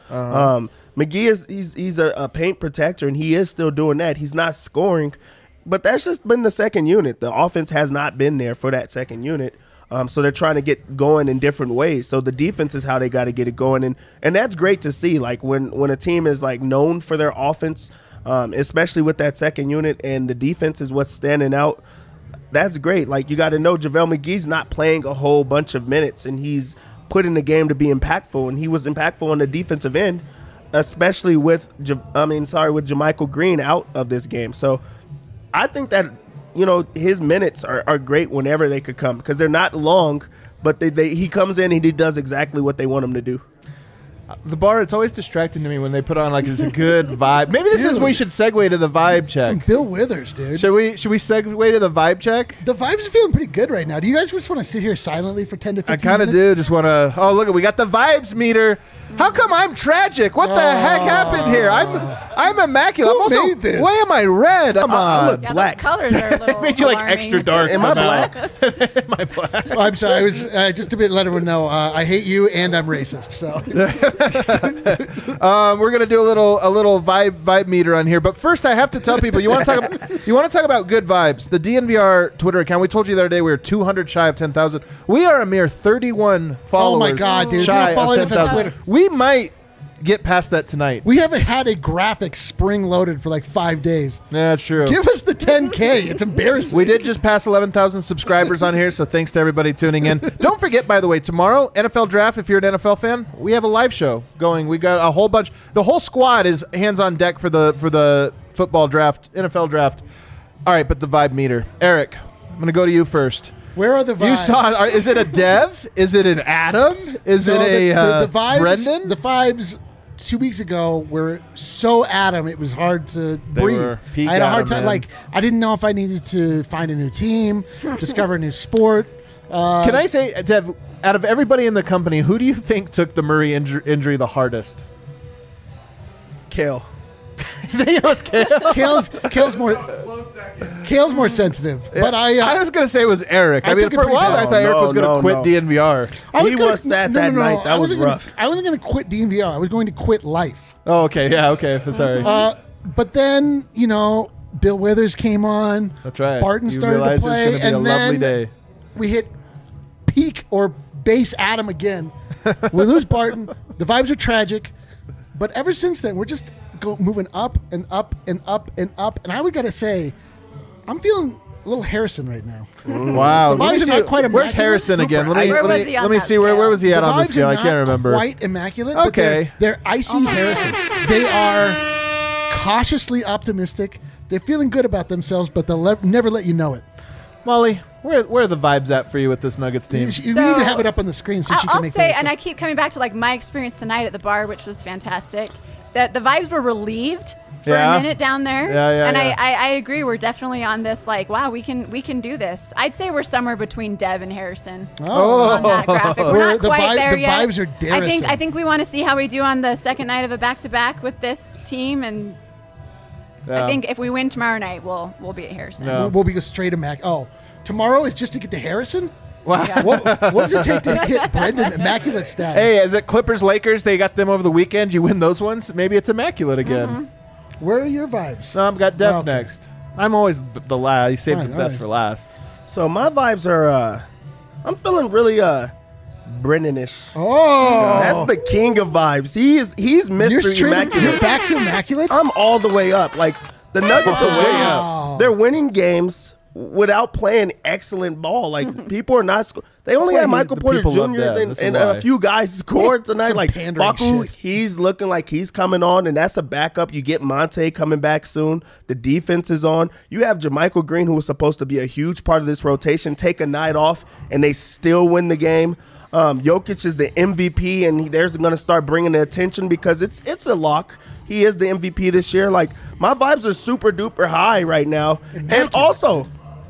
McGee he's a paint protector, and he is still doing that. He's not scoring, but that's just been the second unit. The offense has not been there for that second unit. So they're trying to get going in different ways. So the defense is how they got to get it going, and that's great to see. When a team is known for their offense, especially with that second unit, and the defense is what's standing out. That's great. You got to know JaVale McGee's not playing a whole bunch of minutes, and he's put in the game to be impactful, and he was impactful on the defensive end, especially with JaMychal Green out of this game. So I think that his minutes are great whenever they could come because they're not long, but he comes in and he does exactly what they want him to do. The bar, it's always distracting to me when they put on it's a good vibe. Maybe this is we should segue to the vibe check. Some Bill Withers, dude. Should we segue to the vibe check? The vibes are feeling pretty good right now. Do you guys just want to sit here silently for 10 to 15 I kind of minutes? do. Just want to. Oh, look, we got the vibes meter. How come I'm tragic? What the heck happened here? I'm immaculate. Who I'm also. made this? Why am I red? Come I on. look Yeah, black. those colors are a little Made you alarming. extra dark. Am I somehow. black? Am I black? Oh, I'm sorry. I was just to let everyone know I hate you and I'm racist. So We're gonna do a little vibe meter on here, but first I have to tell people you want to talk about good vibes. The DNVR Twitter account. We told you the other day we were 200 shy of 10,000. We are a mere 31 followers. Oh my God, dude! Shy You're following of us on 10,000. Twitter. We might get past that tonight. We haven't had a graphic spring loaded for 5 days. Yeah, that's true. Give us the 10K. It's embarrassing. We did just pass 11,000 subscribers on here, so thanks to everybody tuning in. Don't forget, by the way, tomorrow, NFL Draft, if you're an NFL fan, we have a live show going. We got a whole bunch. The whole squad is hands on deck for the football draft, NFL Draft. All right, but the vibe meter. Eric, I'm going to go to you first. Where are the vibes? You saw, is it a Dev? Is it an Adam? Is No, it the vibes? Brendan? The vibes 2 weeks ago were so Adam, it was hard to They breathe. were peak I had a hard Adam, time. man. I didn't know if I needed to find a new team, discover a new sport. Can I say, Dev, out of everybody in the company, who do you think took the Murray injury the hardest? Kale. You know, it's Kale. Kale's more sensitive. But I was gonna say it was Eric. I mean, took it for a pretty while bad. I thought Eric was gonna quit DNVR. He was sad that night. That was rough. I wasn't going to quit DNVR. I was going to quit life. Oh, okay. Yeah. Okay. Sorry. But then, Bill Withers came on. That's right. Barton You started to realized play. It's gonna be and a then lovely day. we hit peak or base Adam again. We lose Barton. The vibes are tragic. But ever since then, we're just moving up and up and up and up. And I would got to say, I'm feeling a little Harrison right now. Wow. The vibes are not quite Where's immaculate. Harrison again? Where was he on Let me that see. Where scale? was he at The on the vibes scale? are I can't not remember. Quite immaculate. But Okay. they're icy Harrison. They are cautiously optimistic. They're feeling good about themselves, but they'll never let you know it. Molly, where are the vibes at for you with this Nuggets team? You need to have it up on the screen so she can I'll make say, that. and I keep coming back to like my experience tonight at the bar, which was fantastic. That the vibes were relieved for Yeah. a minute down there. Yeah, and yeah. I agree. We're definitely on this. Like, wow, we can do this. I'd say we're somewhere between Dev and Harrison on that graphic. We're not quite there the yet. vibes are Darrison. I think we want to see how we do on the second night of a back-to-back with this team, and Yeah. I think if we win tomorrow night, we'll be at Harrison. No. We'll be straight immaculate. Oh, tomorrow is just to get to Harrison? Wow. Yeah. What does it take to get Brendan immaculate status? Hey, is it Clippers Lakers? They got them over the weekend. You win those ones. Maybe it's immaculate again. Where are your vibes? No, I've got Def Okay. next. I'm always the last. You saved Fine, the best alright. for last. So my vibes are, I'm feeling really Brendan-ish. Oh, That's the king of vibes. He's you're Mr. straight. Immaculate. You're back to immaculate. I'm all the way up. Like the Nuggets are way up. They're winning games without playing excellent ball. Like people are not. They only why had Michael the Porter people love Jr. that. and, That's and why. a few guys scored tonight. Some Like pandering Facu, shit. he's looking like he's coming on, and that's a backup. You get Monte coming back soon. The defense is on. You have JaMychal Green, who was supposed to be a huge part of this rotation, take a night off, and they still win the game. Jokic is the MVP, and they're going to start bringing the attention because it's a lock. He is the MVP this year. Like my vibes are super duper high right now, and also,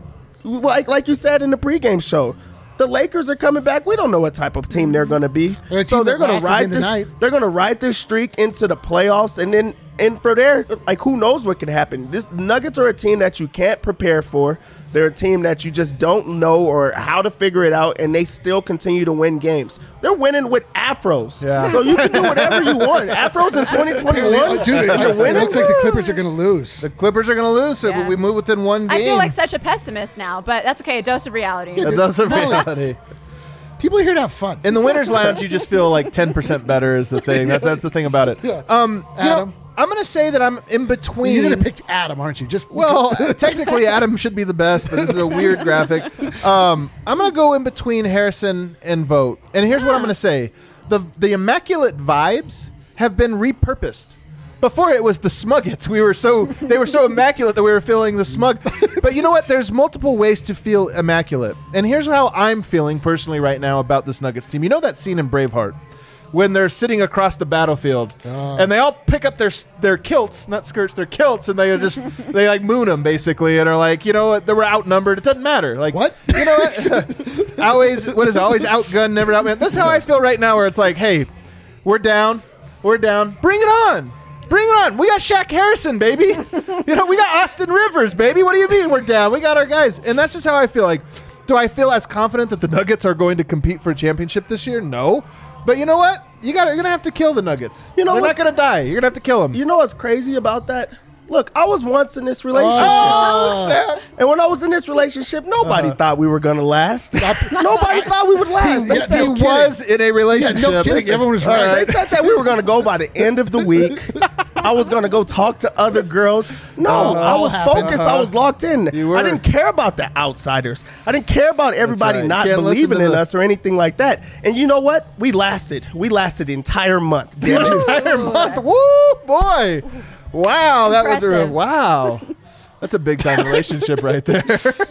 like you said in the pregame show, the Lakers are coming back. We don't know what type of team they're going to be, They're a so team they're that going to lasted ride into this. night. They're going to ride this streak into the playoffs, and for there, like who knows what can happen. This Nuggets are a team that you can't prepare for. They're a team that you just don't know or how to figure it out, and they still continue to win games. They're winning with afros, Yeah. so you can do whatever you want. Afros in 2021, Dude, you're it winning. looks like the Clippers are going to lose. The Clippers are going to lose, so Yeah. we move within one game. I feel like such a pessimist now, but that's okay. A dose of reality. That does a reality. People are here to have fun. In the Winners Lounge, you just feel like 10% better is the thing. That's the thing about it. Yeah. You Adam. know, I'm going to say that I'm in between. You're going to pick Adam, aren't you? Just Well, technically, Adam should be the best, but this is a weird graphic. I'm going to go in between Harrison and Vogt. And here's what I'm going to say. The immaculate vibes have been repurposed. Before it was the Smuggets. They were so immaculate that we were feeling the smug. But you know what? There's multiple ways to feel immaculate. And here's how I'm feeling personally right now about this Nuggets team. You know that scene in Braveheart? When they're sitting across the battlefield, and they all pick up their kilts, not skirts, their kilts, and they like moon them basically, and are like, you know what, they were outnumbered. It doesn't matter. Like What? You know what? Always outgunned, never outman. That's how I feel right now. Where it's like, hey, we're down, bring it on. Bring it on. We got Shaq Harrison, baby. You know, we got Austin Rivers, baby. What do you mean we're down? We got our guys. And that's just how I feel. Like, do I feel as confident that the Nuggets are going to compete for a championship this year? No. But you know what? You're going to have to kill the Nuggets. You know They're not what's- going to die. You're going to have to kill them. You know what's crazy about that? Look, I was once in this relationship. Oh, snap. And when I was in this relationship, nobody thought we were going to last. Nobody thought we would last. They said, He was in a relationship. no kidding. Everyone was All right. They said that we were going to go by the end of the week. I was going to go talk to other girls. No, I was happened. focused. I was locked in. You were. I didn't care about the outsiders. I didn't care about everybody right. not Can't listen believing to in the- us or anything like that. And you know what? We lasted. We lasted the entire month. Damn it. Entire month. Woo, boy. Wow. That was Impressive. wow. That's a big time relationship right there.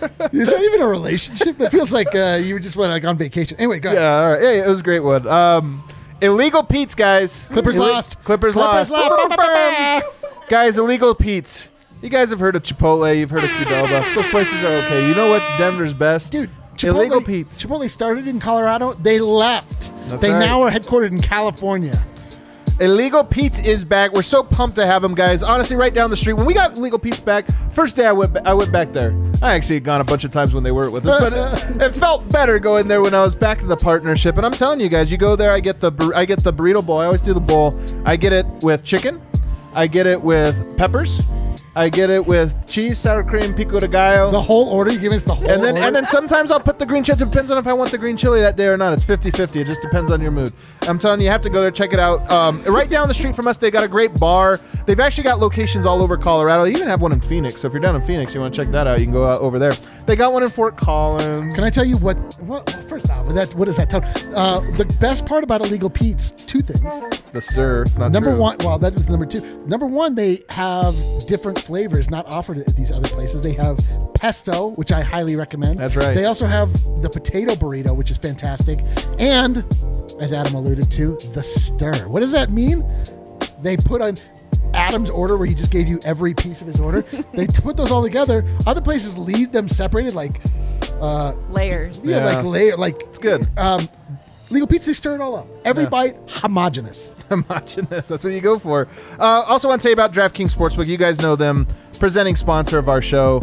Is that even a relationship? That feels like you just went like on vacation. Anyway, go ahead. Yeah, all right. Hey, it was a great one. Illegal Pete's, guys. Clippers lost. Clippers lost. Guys, illegal Pete's. You guys have heard of Chipotle. You've heard of Qdoba. Those places are okay. You know what's Denver's best? Dude, Illegal Pete's. Chipotle started in Colorado. They left. That's They right. now are headquartered in California. Illegal Pete's is back. We're so pumped to have him, guys. Honestly, right down the street. When we got Illegal Pete's back, first day I went back there. I actually had gone a bunch of times when they weren't with us, but it felt better going there when I was back in the partnership. And I'm telling you guys, you go there, I get the burrito bowl. I always do the bowl. I get it with chicken. I get it with peppers. I get it with cheese, sour cream, pico de gallo. The whole order? You give us the whole order? And then sometimes I'll put the green chili. It depends on if I want the green chili that day or not. It's 50-50. It just depends on your mood. I'm telling you, you have to go there, check it out. Right down the street from us, they got a great bar. They've actually got locations all over Colorado. They even have one in Phoenix. So if you're down in Phoenix, you want to check that out, you can go out over there. They got one in Fort Collins. Can I tell you what first off, what is that tone? The best part about Illegal Pete's, two things. The stir. Not Number true. one, well, that was number two. Number one, they have different flavors not offered at these other places. They have pesto, which I highly recommend. That's right. They also have the potato burrito, which is fantastic. And, as Adam alluded to, the stir. What does that mean? They put on Adam's order, where he just gave you every piece of his order. They put those all together. Other places leave them separated, like Layers. yeah, like layer, like It's good. Legal Pizza, they stir it all up. Every Yeah. bite, homogenous. Homogenous. That's what you go for. Also want to tell you about DraftKings Sportsbook. You guys know them, presenting sponsor of our show.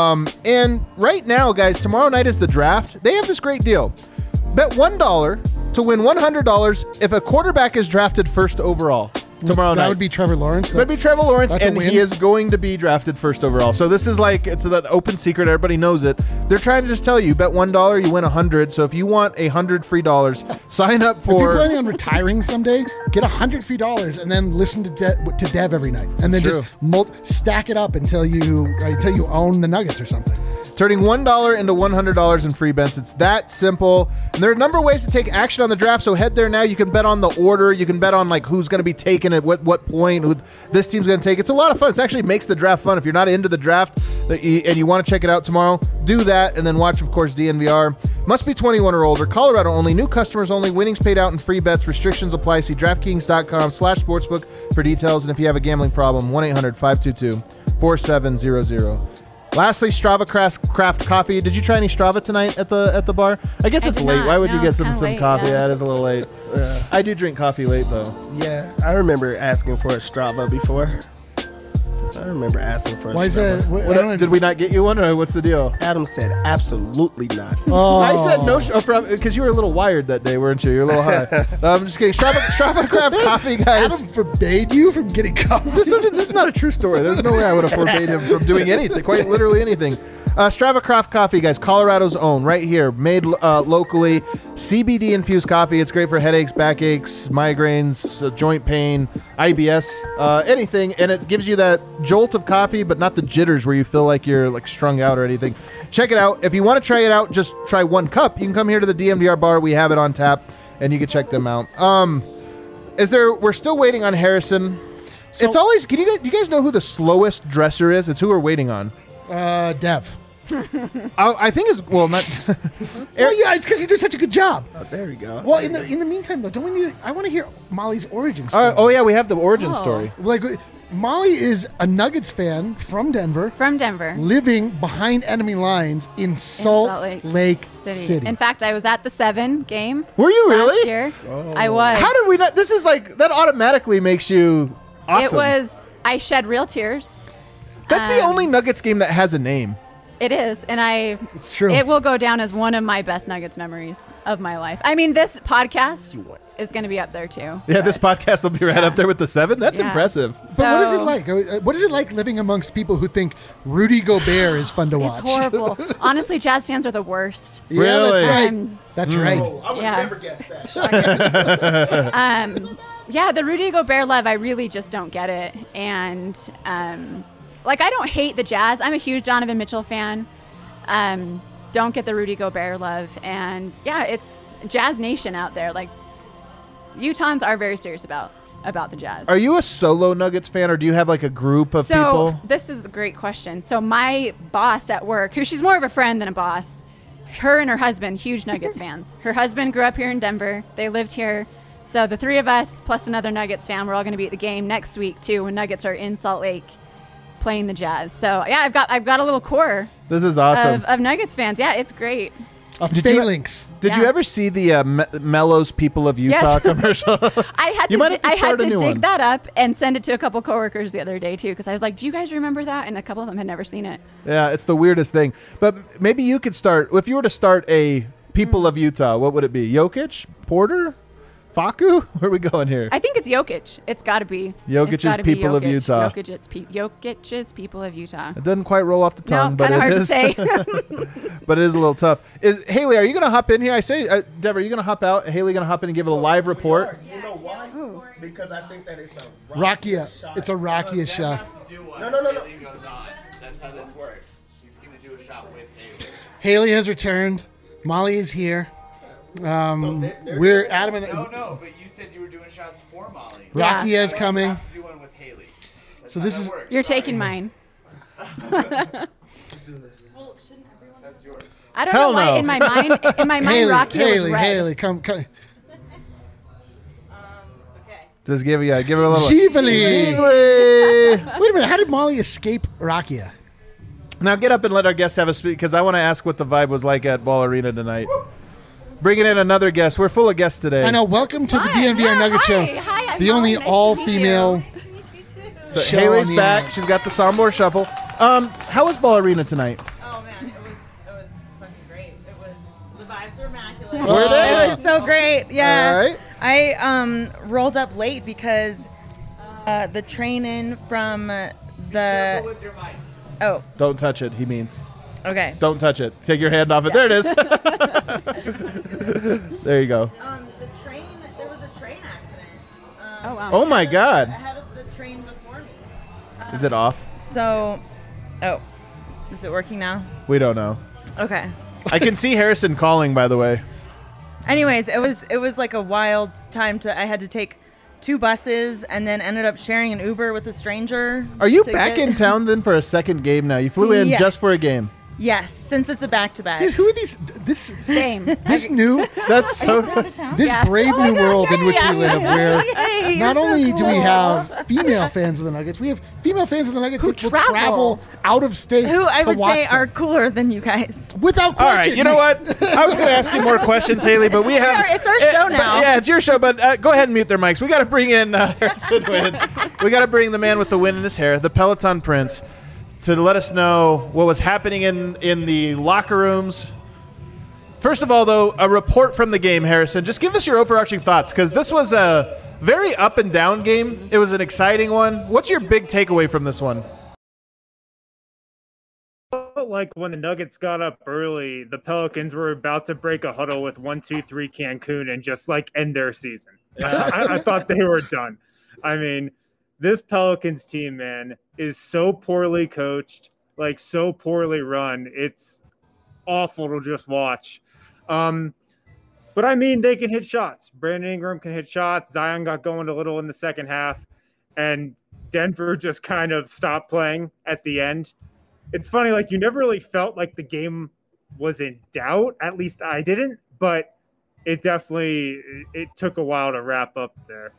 And right now, guys, tomorrow night is the draft. They have this great deal. Bet $1 to win $100 if a quarterback is drafted first overall tomorrow night. That would be Trevor Lawrence. That'd be Trevor Lawrence, that's a and win. he is going to be drafted first overall. So this is like, it's an open secret. Everybody knows it. They're trying to just tell you, bet $1, you win 100. So if you want $100 free, sign up If you're for... planning on retiring someday, get $100 free and then listen to Dev every night, and then True. just stack it up until you own the Nuggets or something. Turning $1 into $100 in free bets. It's that simple. And there are a number of ways to take action on the draft, so head there now. You can bet on the order. You can bet on like who's going to be taken at what point, who this team's going to take. It's a lot of fun. It actually makes the draft fun. If you're not into the draft and you want to check it out tomorrow, do that. And then watch, of course, DNVR. Must be 21 or older. Colorado only. New customers only. Winnings paid out in free bets. Restrictions apply. See DraftKings.com/sportsbook for details. And if you have a gambling problem, 1-800-522-4700. Lastly, Strava Craft Coffee. Did you try any Strava tonight at the bar? I guess I it's did late. not. Why would you No, get it's some kinda late, coffee? yeah. Yeah, it is a little late. I do drink coffee late though. Yeah, I remember asking for a Strava before. I remember asking for a Why is Strava. that? I don't know, Did we not get you one, or what's the deal? Adam said absolutely not. Oh. I said no, because you were a little wired that day, weren't you? You're a little high. I'm just kidding. Strava Craft Coffee, guys. Adam forbade you from getting coffee. This is not a true story. There's no way I would have forbade him from doing anything, quite literally anything. Strava Craft Coffee, guys, Colorado's own, right here, made locally. CBD infused coffee. It's great for headaches, backaches, migraines, joint pain, IBS, anything, and it gives you that jolt of coffee, but not the jitters where you feel like you're like strung out or anything. Check it out. If you want to try it out, just try one cup. You can come here to the DMDR bar. We have it on tap, and you can check them out. We're still waiting on Harrison. It's always. Do you guys know who the slowest dresser is? It's who we're waiting on. Dev. I think it's not. Well, yeah, it's because you do such a good job. Oh, there we go. Well, in the meantime, though, don't we need? I want to hear Molly's origin story. Oh yeah, we have the origin Oh. story. Like, Molly is a Nuggets fan from Denver, From Denver. living behind enemy lines in Salt Lake City. In fact, I was at the 7 game. Were you last really? year. I was. How did we not? This is like that automatically makes you awesome. It was. I shed real tears. That's the only Nuggets game that has a name. It is, and It's true. It will go down as one of my best Nuggets memories of my life. I mean, this podcast is going to be up there too. Yeah, this podcast will be right up there with the 7. That's Yeah. impressive. But what is it like? What is it like living amongst people who think Rudy Gobert is fun to watch? It's horrible. Honestly, Jazz fans are the worst. Yeah, Really? that's right. Um, That's right. I would Yeah. never guess that. Yeah, the Rudy Gobert love, I really just don't get it. And like, I don't hate the Jazz. I'm a huge Donovan Mitchell fan. Don't get the Rudy Gobert love. And yeah, it's Jazz Nation out there. Like, Utahns are very serious about the Jazz. Are you a solo Nuggets fan, or do you have like a group of So people? this is a great question. So my boss at work, who she's more of a friend than a boss, her and her husband, huge Nuggets fans. Her husband grew up here in Denver. They lived here. So the three of us plus another Nuggets fan, we're all going to be at the game next week too, when Nuggets are in Salt Lake playing the Jazz. So yeah, I've got a little core This is awesome. of Nuggets fans. Yeah, it's great. A Did you- phalanx. Did you Yeah. ever see the Mellows People of Utah Yes. commercial? I had You might have to I had start a to new dig one. that up and send it to a couple coworkers the other day too, because I was like, "Do you guys remember that?" And a couple of them had never seen it. Yeah, it's the weirdest thing. But maybe you could start, if you were to start a People of Utah, what would it be? Jokic? Porter? Faku? Where are we going here? I think it's Jokic. It's got to be. Jokic's It's gotta be People of Jokic. Utah. Jokic's People of Utah. It doesn't quite roll off the tongue, No, but kind of it hard is. to say. But it is a little tough. Haley, are you going to hop in here? I say, Dev, are you going to hop out? Haley going to hop in and give a live report? You know why? Because I think that it's a Rakia. shot. It's a Rakia shot. No, no, no, no. Goes on. That's how this works. She's gonna do a shot with Haley. Haley has returned. Molly is here. We're adamant. No, but you said you were doing shots for Molly. Yeah. Rakia is coming. Have to do one with Haley. That's So how this that is- works. You're Sorry. taking mine. That's yours. I don't Hell know why no. in my mind, Haley, Rakia Haley, was red. Haley, come. Just give it a little. Jivali. Jivali. Wait a minute. How did Molly escape Rakia? Now get up and let our guests have a speak, because I want to ask what the vibe was like at Ball Arena tonight. Bringing in another guest. We're full of guests today. I know. Welcome to the Hi. DNVR Nugget Hi. Show. Hi, I'm The only Molly. Nice to all-female. meet So show Haley's on the back. internet. She's got the Sombor Shuffle. How was Ball Arena tonight? Oh man, it was fucking great. It was the vibes were immaculate. Were they? It was so great. Yeah. All right. I rolled up late because the train in from the With your mic. oh Don't touch it, he means. okay. Don't touch it. Take your hand off it. There it is. There you go. The train there was a train accident. Oh wow. Oh my God. Ahead of the train before me. Is it off? So, oh, is it working now? We don't know. Okay. I can see Harrison calling, by the way. Anyways, it was like a wild time I had to take 2 buses and then ended up sharing an Uber with a stranger. Are you to back get- in town then for a second game now? You flew in Yes. just for a game. Yes, since it's a back-to-back. Dude, who are these? This Same. new, That's so. this Yeah. brave new world in which we live, where Yay, not you're so only do we cool. have female fans of the Nuggets, we have female fans of the Nuggets Who that will travel. travel out of state. Who I to would watch say them. are cooler than you guys. without All question. right, you know what? I was going to ask you more questions, Haley, but we have. It's our show but- now. yeah, it's your show, but go ahead and mute their mics. We got to bring in Harrison Wynn. We got to bring the man with the wind in his hair, the Peloton Prince, to let us know what was happening in the locker rooms. First of all, though, a report from the game, Harrison. Just give us your overarching thoughts, because this was a very up and down game. It was an exciting one. What's your big takeaway from this one? Felt like when the Nuggets got up early, the Pelicans were about to break a huddle with 1-2-3 Cancun and just like end their season. I thought they were done. I mean, this Pelicans team, man, is so poorly coached, like so poorly run. It's awful to just watch. But I mean, they can hit shots. Brandon Ingram can hit shots. Zion got going a little in the second half, and Denver just kind of stopped playing at the end. It's funny, like you never really felt like the game was in doubt. At least I didn't, but it took a while to wrap up there.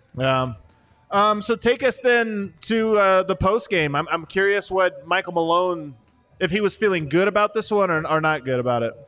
So take us then to the post game. I'm curious what Michael Malone, if he was feeling good about this one or not good about it.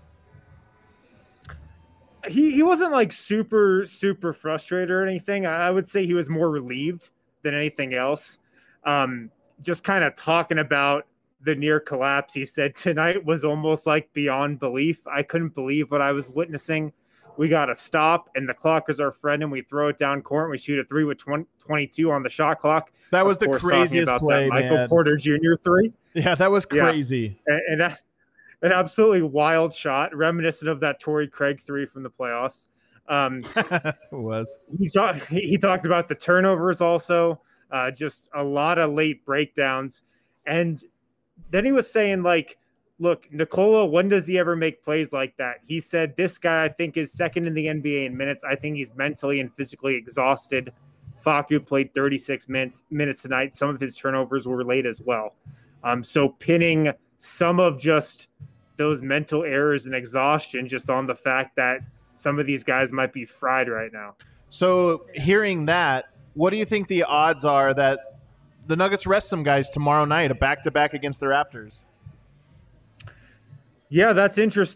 He wasn't like super frustrated or anything. I would say he was more relieved than anything else. Just kind of talking about the near collapse. He said tonight was almost like beyond belief. I couldn't believe what I was witnessing. We got to stop, and the clock is our friend, and we throw it down court. And we shoot a 3 with 22 on the shot clock. That was Of the course, talking craziest about play, that Michael man. Porter Jr. 3. Yeah, that was Yeah. crazy. And an absolutely wild shot, reminiscent of that Torrey Craig 3 from the playoffs. It was. He talked about the turnovers also, just a lot of late breakdowns. And then he was saying, like, look, Nikola, when does he ever make plays like that? He said, this guy, I think, is second in the NBA in minutes. I think he's mentally and physically exhausted. Facu played 36 minutes tonight. Some of his turnovers were late as well. So pinning some of just those mental errors and exhaustion just on the fact that some of these guys might be fried right now. So hearing that, what do you think the odds are that the Nuggets rest some guys tomorrow night, a back-to-back against the Raptors? Yeah, that's interesting.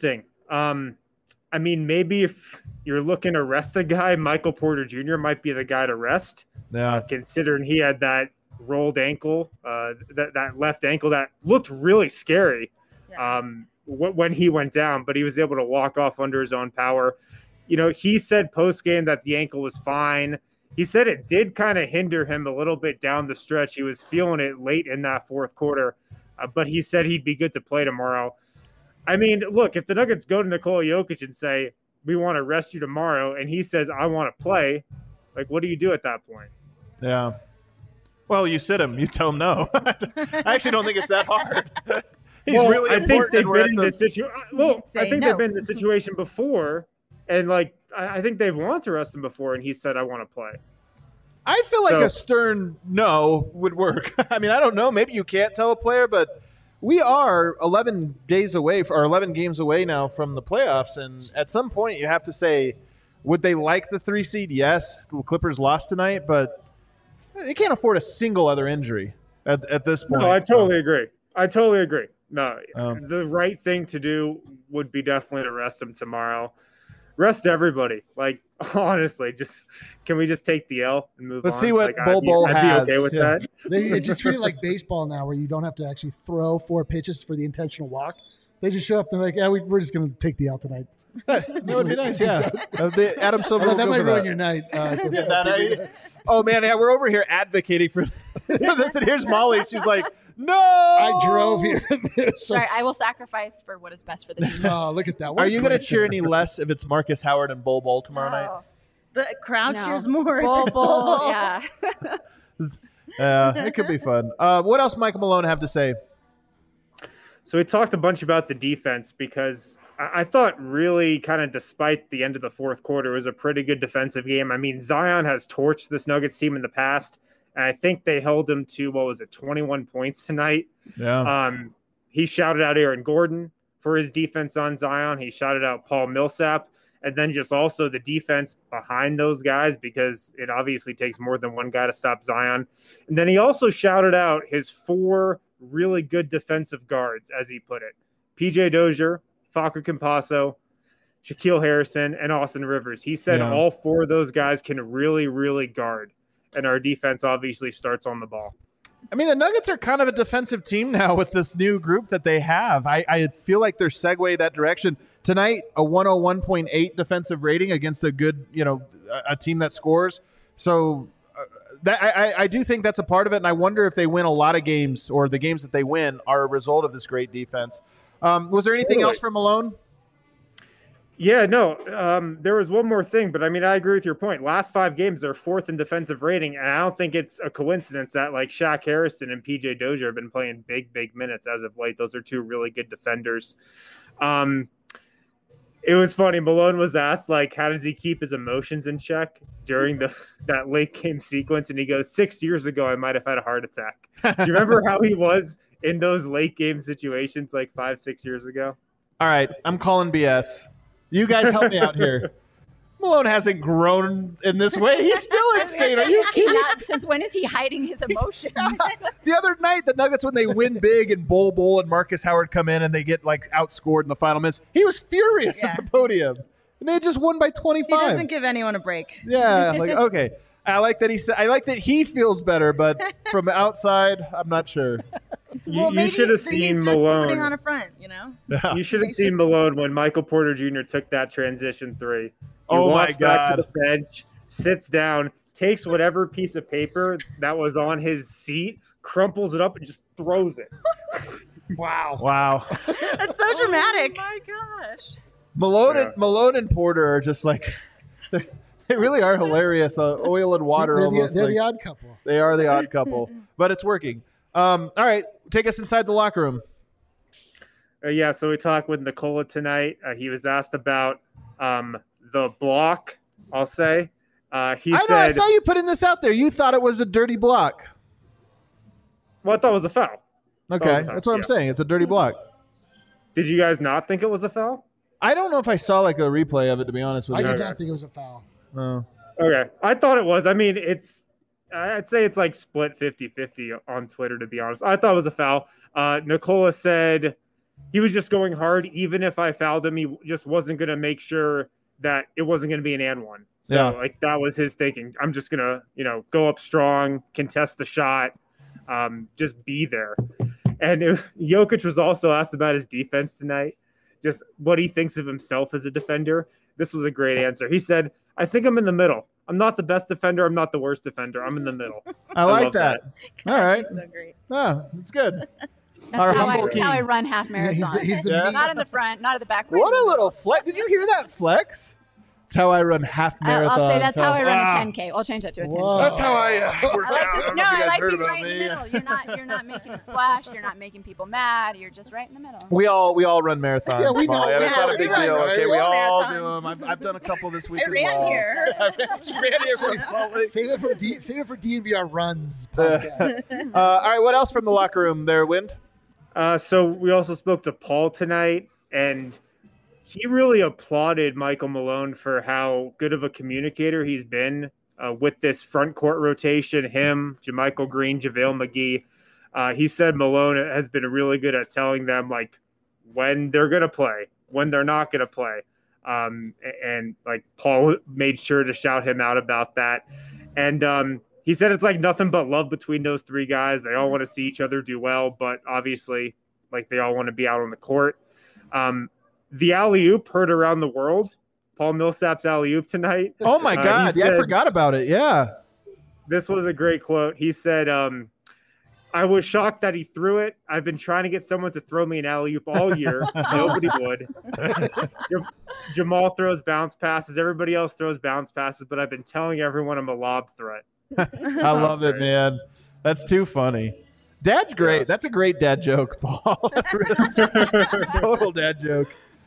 I mean, maybe if you're looking to rest a guy, Michael Porter Jr. might be the guy to rest. Yeah. Considering he had that rolled ankle, that left ankle that looked really scary when he went down, but he was able to walk off under his own power. You know, he said post-game that the ankle was fine. He said it did kind of hinder him a little bit down the stretch. He was feeling it late in that fourth quarter, but he said he'd be good to play tomorrow. I mean, look, if the Nuggets go to Nikola Jokic and say, we want to rest you tomorrow, and he says, I want to play, like, what do you do at that point? Yeah. Well, you sit him. You tell him no. I actually don't think it's that hard. He's really I think they've been in this situation. Well, Say I think no. they've been in the situation before, and like I think they've wanted to rest him before, and he said, "I want to play." I feel like So- a stern no would work. I mean, I don't know. Maybe you can't tell a player, but we are 11 days away or 11 games away now from the playoffs, and at some point you have to say, would they like the 3 seed? Yes, the Clippers lost tonight, but they can't afford a single other injury at this point. No, I totally agree. No, Um, the right thing to do would be definitely to rest him tomorrow. Rest everybody. Like, honestly, can we just take the L and move Let's on? see what Like, Bol Bol I'd has. be okay with Yeah. that. They just treat it like baseball now, where you don't have to actually throw 4 pitches for the intentional walk. They just show up and they're like, yeah, we're just going to take the L tonight. That would be nice, yeah. Adam Silver. Although will that go might for ruin that. your night. Oh man, yeah, we're over here advocating for this, and here's Molly. She's like, "No, I drove here. Sorry, I will sacrifice for what is best for the team. Oh, look at that. What Are a you going to great cheer thing. any less if it's Marcus Howard and Bol Bol tomorrow night? Oh, The crowd no. cheers more. if Bol it's Bol, Bol Bol. yeah. Yeah, it could be fun. What else Michael Malone have to say? So we talked a bunch about the defense because I thought really kind of despite the end of the fourth quarter, it was a pretty good defensive game. I mean, Zion has torched this Nuggets team in the past, and I think they held him to, 21 points tonight. Yeah, He shouted out Aaron Gordon for his defense on Zion. He shouted out Paul Millsap, and then just also the defense behind those guys because it obviously takes more than one guy to stop Zion. And then he also shouted out his 4 really good defensive guards, as he put it. PJ Dozier, Facu Campazzo, Shaquille Harrison, and Austin Rivers. He said Yeah. all 4 of those guys can really, really guard. And our defense obviously starts on the ball. I mean the Nuggets are kind of a defensive team now with this new group that they have. I feel like they're segue that direction tonight. A 101.8 defensive rating against a good, a team that scores. So I do think that's a part of it, and I wonder if they win a lot of games or the games that they win are a result of this great defense. Was there anything else from Malone? Yeah, no, there was one more thing, but I mean, I agree with your point. Last 5 games, they're 4th in defensive rating, and I don't think it's a coincidence that like Shaq Harrison and PJ Dozier have been playing big minutes as of late. Those are 2 really good defenders. It was funny. Malone was asked, like, how does he keep his emotions in check during that late game sequence? And he goes, 6 years ago, I might have had a heart attack. Do you remember how he was in those late game situations like 5-6 years ago? All right, I'm calling BS. You guys help me out here. Malone hasn't grown in this way. He's still insane. Are you kidding? Since when is he hiding his emotions? The other night, the Nuggets, when they win big and Bol Bol and Marcus Howard come in and they get like outscored in the final minutes, he was furious at the podium. And they had just won by He 25. doesn't give anyone a break. Yeah, like okay. I like that he feels better, but from outside, I'm not sure. You maybe should have he's seen just Malone. putting on a front, You should have seen Malone when Michael Porter Jr. took that transition 3. He Oh my walks back to God. the bench, sits down, takes whatever piece of paper that was on his seat, crumples it up, and just throws it. Wow. That's so dramatic. Oh my gosh. Malone and Porter are just like they really are hilarious. Oil and water They're, almost. they're like- the odd couple. They are the odd couple, but it's working. All right, take us inside the locker room. Yeah, so we talked with Nikola tonight. He was asked about the block, I'll say. He I said, saw you putting this out there. You thought it was a dirty block. well, I thought it was a foul. Okay, Oh, that's what I'm yeah. saying. It's a dirty block. Did you guys not think it was a foul? I don't know if I saw like a replay of it, to be honest with I you. did not think it was a foul. Oh. Okay. I thought it was. I mean, I'd say it's like split 50-50 on Twitter, to be honest. I thought it was a foul. Nikola said he was just going hard. Even if I fouled him, he just wasn't going to make sure that it wasn't going to be an and one. So like that was his thinking. I'm just going to, go up strong, contest the shot, just be there. And Jokic was also asked about his defense tonight, just what he thinks of himself as a defender. This was a great answer. He said, I think I'm in the middle. I'm not the best defender. I'm not the worst defender. I'm in the middle. I like that. God, All right. he's so great. Oh, that's good. That's how I run half marathons. He's the not in the front, not at the back. What a little flex. Did you hear that flex? That's how I run half marathons. I'll say that's how I run a 10K. I'll change that to a 10K. That's how I work out. I like being right in the middle. You're not making a splash. You're not making people mad. You're just right in the middle. We all run marathons. Yeah, we know. Molly. It's not a big deal. Right. Okay, we all do Marathons. them. I've done a couple this week I as ran well. here. She ran here from Salt Lake. Save it for DNVR runs podcast. All right, what else from the locker room there, Wind? So we also spoke to Paul tonight, and he really applauded Michael Malone for how good of a communicator he's been with this front court rotation, him, JaMychal Green, JaVale McGee. He said Malone has been really good at telling them, like, when they're going to play, when they're not going to play. And like, Paul made sure to shout him out about that. And he said it's like nothing but love between those three guys. They all want to see each other do well, but obviously, like, they all want to be out on the court. The alley-oop heard around the world. Paul Millsap's alley-oop tonight. Oh, my God. I forgot about it. Yeah. This was a great quote. He said, I was shocked that he threw it. I've been trying to get someone to throw me an alley-oop all year. Nobody would. Jamal throws bounce passes. Everybody else throws bounce passes, but I've been telling everyone I'm a lob threat. I love it, man. That's too funny. Dad's great. Yeah. That's a great dad joke, Paul. That's really total dad joke.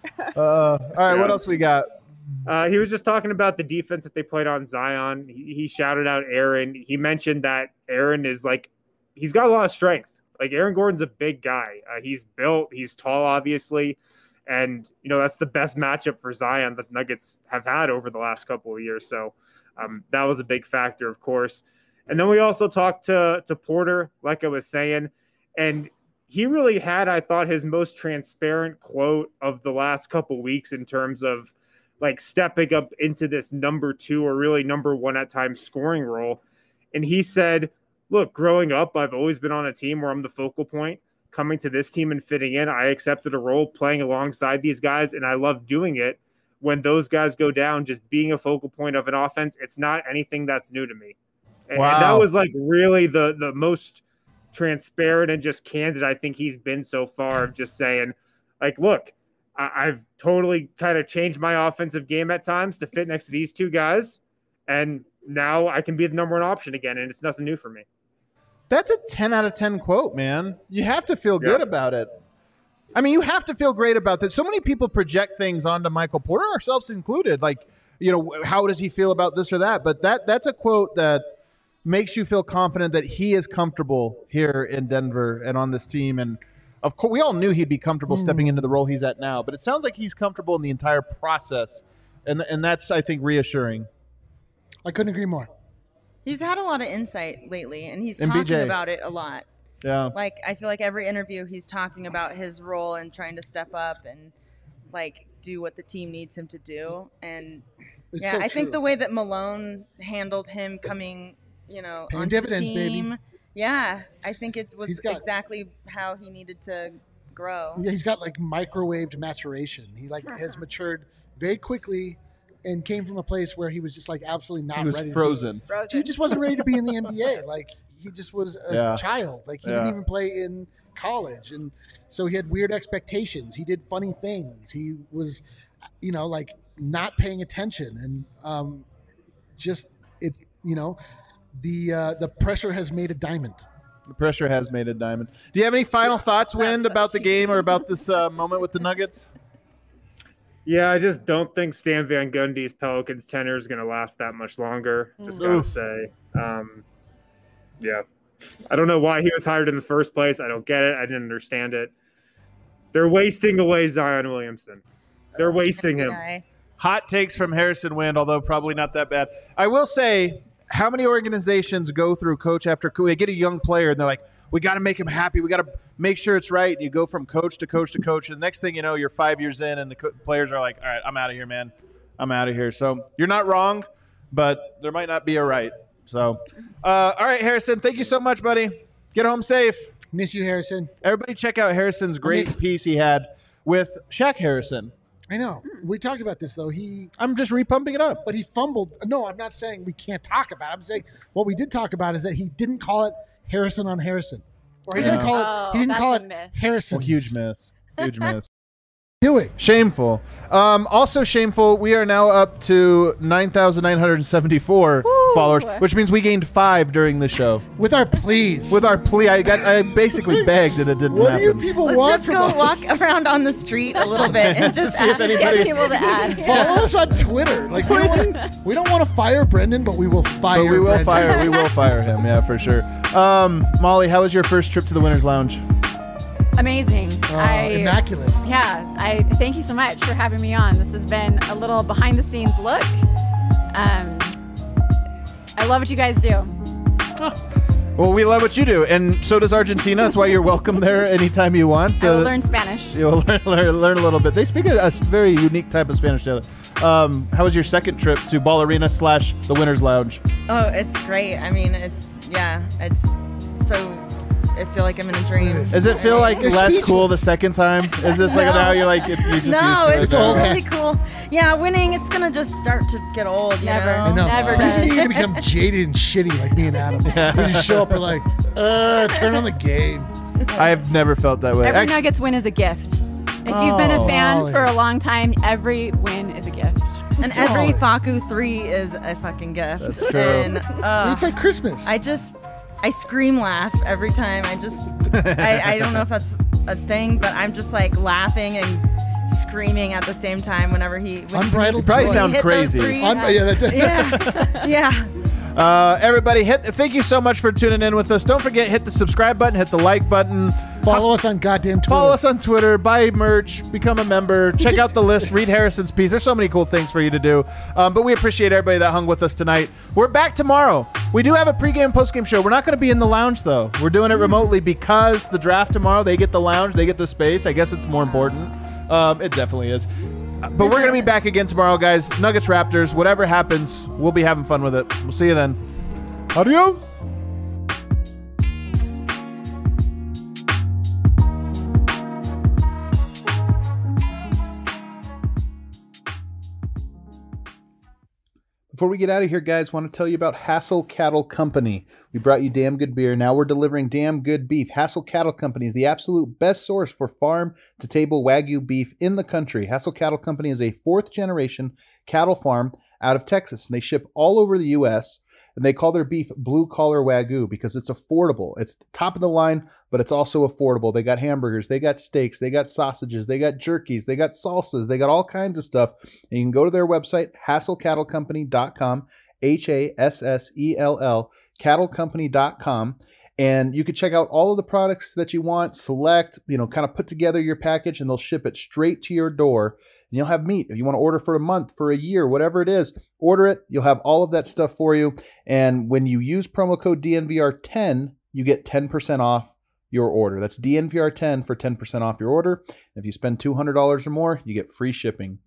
All right, what else we got? He was just talking about the defense that they played on Zion. He shouted out Aaron. He mentioned that Aaron is like, he's got a lot of strength. Like, Aaron Gordon's a big guy. He's built. He's tall, obviously. And, that's the best matchup for Zion that Nuggets have had over the last couple of years. So that was a big factor, of course. And then we also talked to Porter, like I was saying. And he really had, I thought, his most transparent quote of the last couple weeks in terms of, like, stepping up into this number 2 or really number 1 at times scoring role. And he said, look, growing up, I've always been on a team where I'm the focal point. Coming to this team and fitting in, I accepted a role playing alongside these guys, and I love doing it. When those guys go down, just being a focal point of an offense, it's not anything that's new to me. And, wow. And that was, like, really the most transparent and just candid I think he's been so far, of just saying, like, look, I've totally kind of changed my offensive game at times to fit next to these two guys, and now I can be the number 1 option again, and it's nothing new for me. That's a 10 out of 10 quote, man. You have to feel good about it. I mean, you have to feel great about this. So many people project things onto Michael Porter, ourselves included. Like, how does he feel about this or that? But that's a quote that makes you feel confident that he is comfortable here in Denver and on this team. And, of course, we all knew he'd be comfortable stepping into the role he's at now. But it sounds like he's comfortable in the entire process. And that's, I think, reassuring. I couldn't agree more. He's had a lot of insight lately, and he's And talking BJ. about it a lot. Yeah. Like, I feel like every interview he's talking about his role and trying to step up and, like, do what the team needs him to do. And, It's yeah, so I think true. the way that Malone handled him coming, Paying onto dividends, the baby. team, yeah, I think it was He's got- exactly how he needed to grow. Yeah, he's got, like, microwaved maturation. He, like, has matured very quickly and came from a place where he was just, like, absolutely not He was ready. frozen. He just wasn't ready to be in the NBA. Like, he just was a child. Like, he didn't even play in college. And so he had weird expectations. He did funny things. He was, like, not paying attention. And the pressure has made a diamond. The pressure has made a diamond. Do you have any final thoughts, Wind, about the game or about this moment with the Nuggets? Yeah, I just don't think Stan Van Gundy's Pelicans tenure is going to last that much longer. Just got to say. Yeah. I don't know why he was hired in the first place. I don't get it. I didn't understand it. They're wasting away Zion Williamson. They're wasting him. Hot takes from Harrison Wind, although probably not that bad. I will say, how many organizations go through coach after coach? They get a young player, and they're like, we got to make him happy. We got to make sure it's right. And you go from coach to coach to coach. And the next thing you know, you're 5 years in and the players are like, all right, I'm out of here, man. I'm out of here. So you're not wrong, but there might not be a right. So, all right, Harrison, thank you so much, buddy. Get home safe. Miss you, Harrison. Everybody check out Harrison's great piece he had with Shaq Harrison. I know. We talked about this, though. I'm just repumping it up. But he fumbled. No, I'm not saying we can't talk about it. I'm saying what we did talk about is that he didn't call it Harrison on Harrison. Or he didn't call it, Harrison. Well, huge miss. Huge miss. Doing. Shameful. Also shameful, we are now up to 9,974 followers, which means we gained 5 during the show. With our pleas. With our plea. I basically begged and it didn't happen. What do you people Let's want just from go us? walk around on the street a little bit and just see if ask anybody's- Get people to add. Follow us on Twitter. Like we don't want to fire Brendan, but we will fire But we will Brendan. we will fire him, yeah, for sure. Molly, how was your first trip to the Winners Lounge? Amazing. Immaculate. I thank you so much for having me on. This has been a little behind the scenes look. I love what you guys do. Well, we love what you do, and so does Argentina. That's why you're welcome there anytime you want. I will learn Spanish. You'll learn a little bit. They speak a very unique type of Spanish together. How was your second trip to Ball Arena / the Winners Lounge? Oh, it's great. I mean, it's so. I feel like I'm in a dream. Does it feel like They're less speechless. cool the second time? Is this like now you're like, you just No, used it's to it? really cool. Yeah, winning, it's going to just start to get old, you Never. know? I know. Never Pretty soon does. you're gonna become jaded and shitty like me and Adam. We just show up and like, turn on the game. I've never felt that way. Every Actually, Nuggets win is a gift. If you've been a fan Molly. for a long time, every win is a gift. And every Oh. Faku 3 is a fucking gift. That's true. And It's like Christmas. I scream laugh every time. I don't know if that's a thing, but I'm just like laughing and screaming at the same time whenever when Unbridled You probably joy. sound hit those crazy. threes. Yeah, that Yeah. everybody, thank you so much for tuning in with us. Don't forget, hit the subscribe button, hit the like button. Follow us on goddamn Twitter. Follow us on Twitter, buy merch, become a member, check out the list, read Harrison's piece. There's so many cool things for you to do. But we appreciate everybody that hung with us tonight. We're back tomorrow. We do have a pregame, postgame show. We're not going to be in the lounge, though. We're doing it remotely because the draft tomorrow, they get the lounge, they get the space. I guess it's more important. It definitely is. But we're going to be back again tomorrow, guys. Nuggets, Raptors, whatever happens, we'll be having fun with it. We'll see you then. Adios. Before we get out of here, guys, want to tell you about Hassel Cattle Company. We brought you damn good beer. Now we're delivering damn good beef. Hassel Cattle Company is the absolute best source for farm-to-table Wagyu beef in the country. Hassel Cattle Company is a fourth-generation cattle farm out of Texas, and they ship all over the U.S., and they call their beef blue-collar Wagyu because it's affordable. It's top of the line, but it's also affordable. They got hamburgers, they got steaks, they got sausages, they got jerkies, they got salsas, they got all kinds of stuff. And you can go to their website, HassellCattleCompany.com, HASSELL, cattlecompany.com. And you can check out all of the products that you want, select, kind of put together your package, and they'll ship it straight to your door. And you'll have meat. If you want to order for a month, for a year, whatever it is, order it. You'll have all of that stuff for you. And when you use promo code DNVR10, you get 10% off your order. That's DNVR10 for 10% off your order. If you spend $200 or more, you get free shipping.